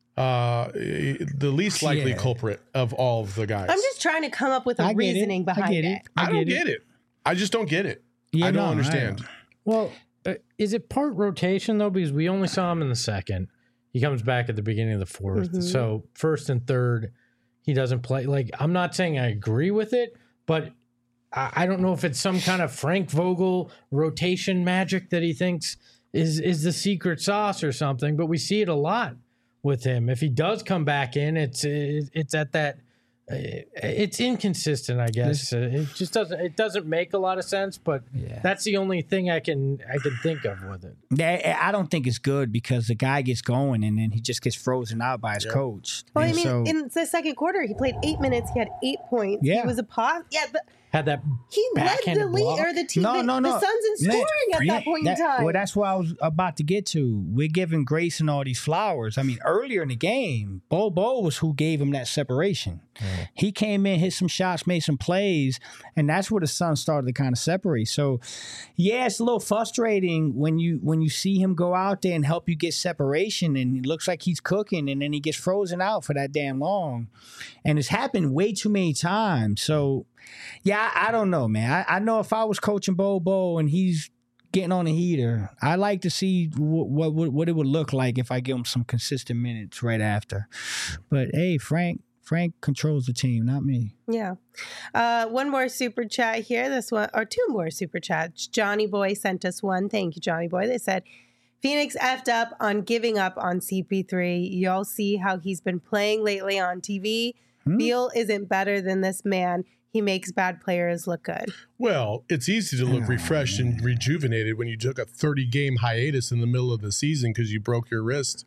likely culprit of all of the guys. I'm just trying to come up with a reasoning behind it. I don't get it. I just don't get it. I don't understand. Well, is it part rotation though? Because we only saw him in the second. He comes back at the beginning of the fourth. Mm-hmm. So first and third, he doesn't play. Like, I'm not saying I agree with it, but I don't know if it's some kind of Frank Vogel rotation magic that he thinks is the secret sauce or something. But we see it a lot with him. If he does come back in, it's at that it's inconsistent, I guess. It just doesn't make a lot of sense, but that's the only thing I can think of with it. I don't think it's good because the guy gets going and then he just gets frozen out by his coach. Well, and I mean, in the second quarter, he played 8 minutes. He had 8 points. Yeah. He was a pause. Yeah, but had that he led the league or the team. No. The Suns in scoring at that point in time. Well, that's what I was about to get to. We're giving Grayson all these flowers. I mean, earlier in the game, Bo was who gave him that separation. He came in, hit some shots, made some plays, and that's where the Suns started to kind of separate. So, yeah, it's a little frustrating when you see him go out there and help you get separation, and it looks like he's cooking, and then he gets frozen out for that damn long. And it's happened way too many times. So, yeah, I don't know, man. I know if I was coaching Bo and he's getting on a heater, I like to see what it would look like if I give him some consistent minutes right after. But hey, Frank controls the team, not me. Yeah. One more super chat here. This one, or 2 more super chats. Johnny Boy sent us one. Thank you, Johnny Boy. They said, Phoenix effed up on giving up on CP3. Y'all see how he's been playing lately on TV. Beal isn't better than this man. He makes bad players look good. Well, it's easy to look refreshed and rejuvenated when you took a 30-game hiatus in the middle of the season because you broke your wrist.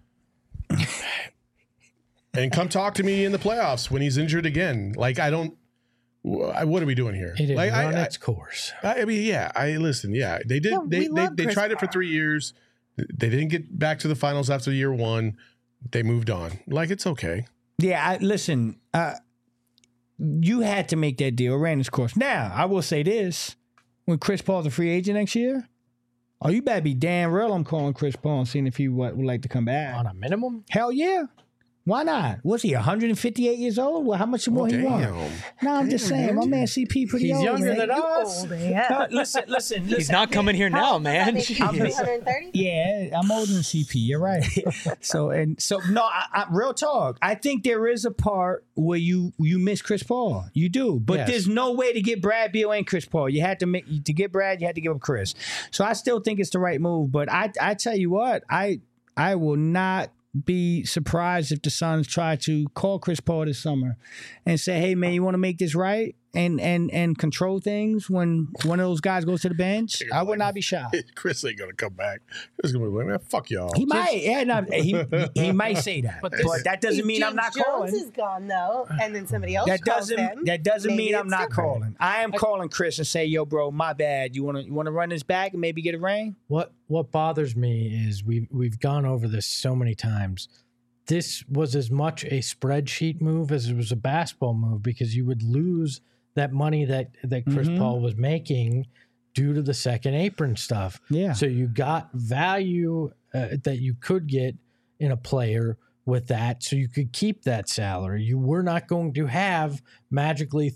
And come talk to me in the playoffs when he's injured again. Like, what are we doing here? It didn't like, run its course. I mean, listen. Yeah, they did. Yeah, they tried it for 3 years. They didn't get back to the finals after year 1. They moved on. Like, it's okay. Yeah, listen. You had to make that deal. Ran its course. Now, I will say this: when Chris Paul's a free agent next year, you better be damn real. I'm calling Chris Paul and seeing if he would like to come back on a minimum. Hell yeah. Why not? Was he 158 years old? Well, how much more he want? No, I'm just saying. My man CP pretty old. He's younger than us. Yeah. Listen. He's not coming here now, man. 130? Yeah, I'm older than CP. You're right. So no, I real talk. I think there is a part where you miss Chris Paul. You do, but there's no way to get Brad Beal and Chris Paul. You had to get Brad. You had to give up Chris. So I still think it's the right move. But I tell you what, I will not be surprised if the Suns try to call Chris Paul this summer and say, hey, man, you want to make this right and control things when one of those guys goes to the bench? I would not be shocked. Chris ain't going to come back. Chris is going to be like, man, fuck y'all. He might. He might say that. But that doesn't mean I'm not calling. Jones is gone, though, and then somebody else calls him. That doesn't mean I'm not different. calling. I am calling Chris and say, yo, bro, my bad. You want to run this back and maybe get a ring? What bothers me is we've gone over this so many times. This was as much a spreadsheet move as it was a basketball move because you would lose that money that Chris Paul was making due to the second apron stuff. Yeah. So you got value that you could get in a player with that, so you could keep that salary. You were not going to have magically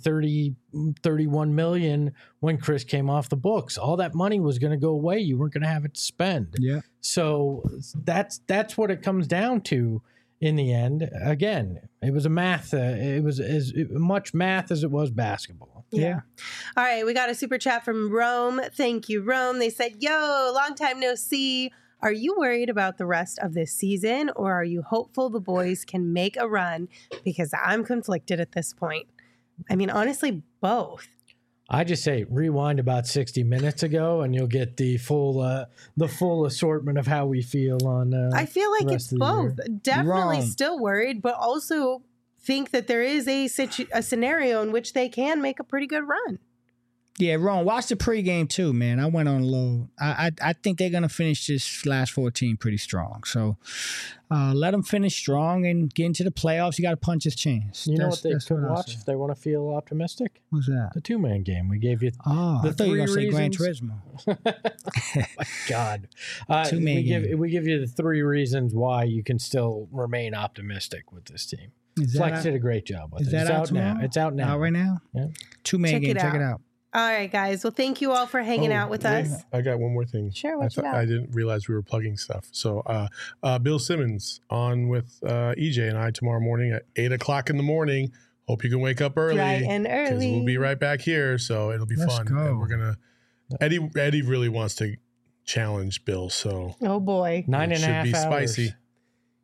31 million when Chris came off the books. All that money was going to go away. You weren't going to have it to spend. Yeah. So that's what it comes down to in the end. Again, it was it was as much math as it was basketball. Yeah. All right, we got a super chat from Rome. Thank you, Rome. They said, yo, long time no see. Are you worried about the rest of this season, or are you hopeful the boys can make a run? Because I'm conflicted at this point. I mean, honestly, both. I just say rewind about 60 minutes ago, and you'll get the full assortment of how we feel on. I feel like it's both. Year. Definitely still worried, but also think that there is a scenario in which they can make a pretty good run. Yeah, Ron, watch the pregame too, man. I went on low. I think they're going to finish this last 14 pretty strong. So let them finish strong and get into the playoffs. You got to punch his chance. You know what they could watch if they want to feel optimistic? What's that? The 2-man game. We gave you the I thought you were going to say Gran Turismo. Oh, my God. 2-man game. We give you the 3 reasons why you can still remain optimistic with this team. Flex did a great job with it. It's out now? It's out now. Out right now? Yeah. 2-man game. Check it out. All right, guys. Well, thank you all for hanging out with us. I got one more thing. Sure, what you got? I didn't realize we were plugging stuff. So Bill Simmons on with EJ and I tomorrow morning at 8 o'clock in the morning. Hope you can wake up early. Bright and early. We'll be right back here, so it'll be fun. Go. And we're gonna Eddie really wants to challenge Bill, so oh boy, 9.5 hours. Spicy.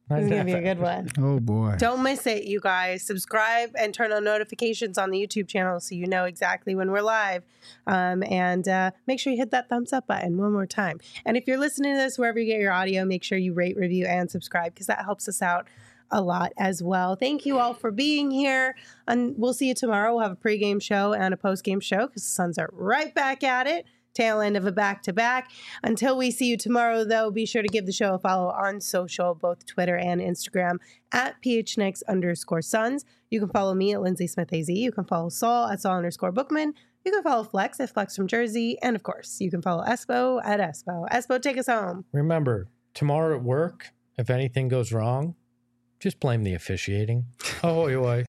This is going to be a good one. Oh, boy. Don't miss it, you guys. Subscribe and turn on notifications on the YouTube channel so you know exactly when we're live. And make sure you hit that thumbs up button one more time. And if you're listening to this wherever you get your audio, make sure you rate, review, and subscribe because that helps us out a lot as well. Thank you all for being here. And we'll see you tomorrow. We'll have a pregame show and a postgame show because the Suns are right back at it. Tail end of a back-to-back. Until we see you tomorrow, though, be sure to give the show a follow on social, both Twitter and Instagram, at @PHNix_Suns. You can follow me at Lindsay Smith AZ. You can follow Saul at Saul_Bookman. You can follow Flex at Flex from Jersey. And, of course, you can follow Espo at Espo. Espo, take us home. Remember, tomorrow at work, if anything goes wrong, just blame the officiating. Oh, boy.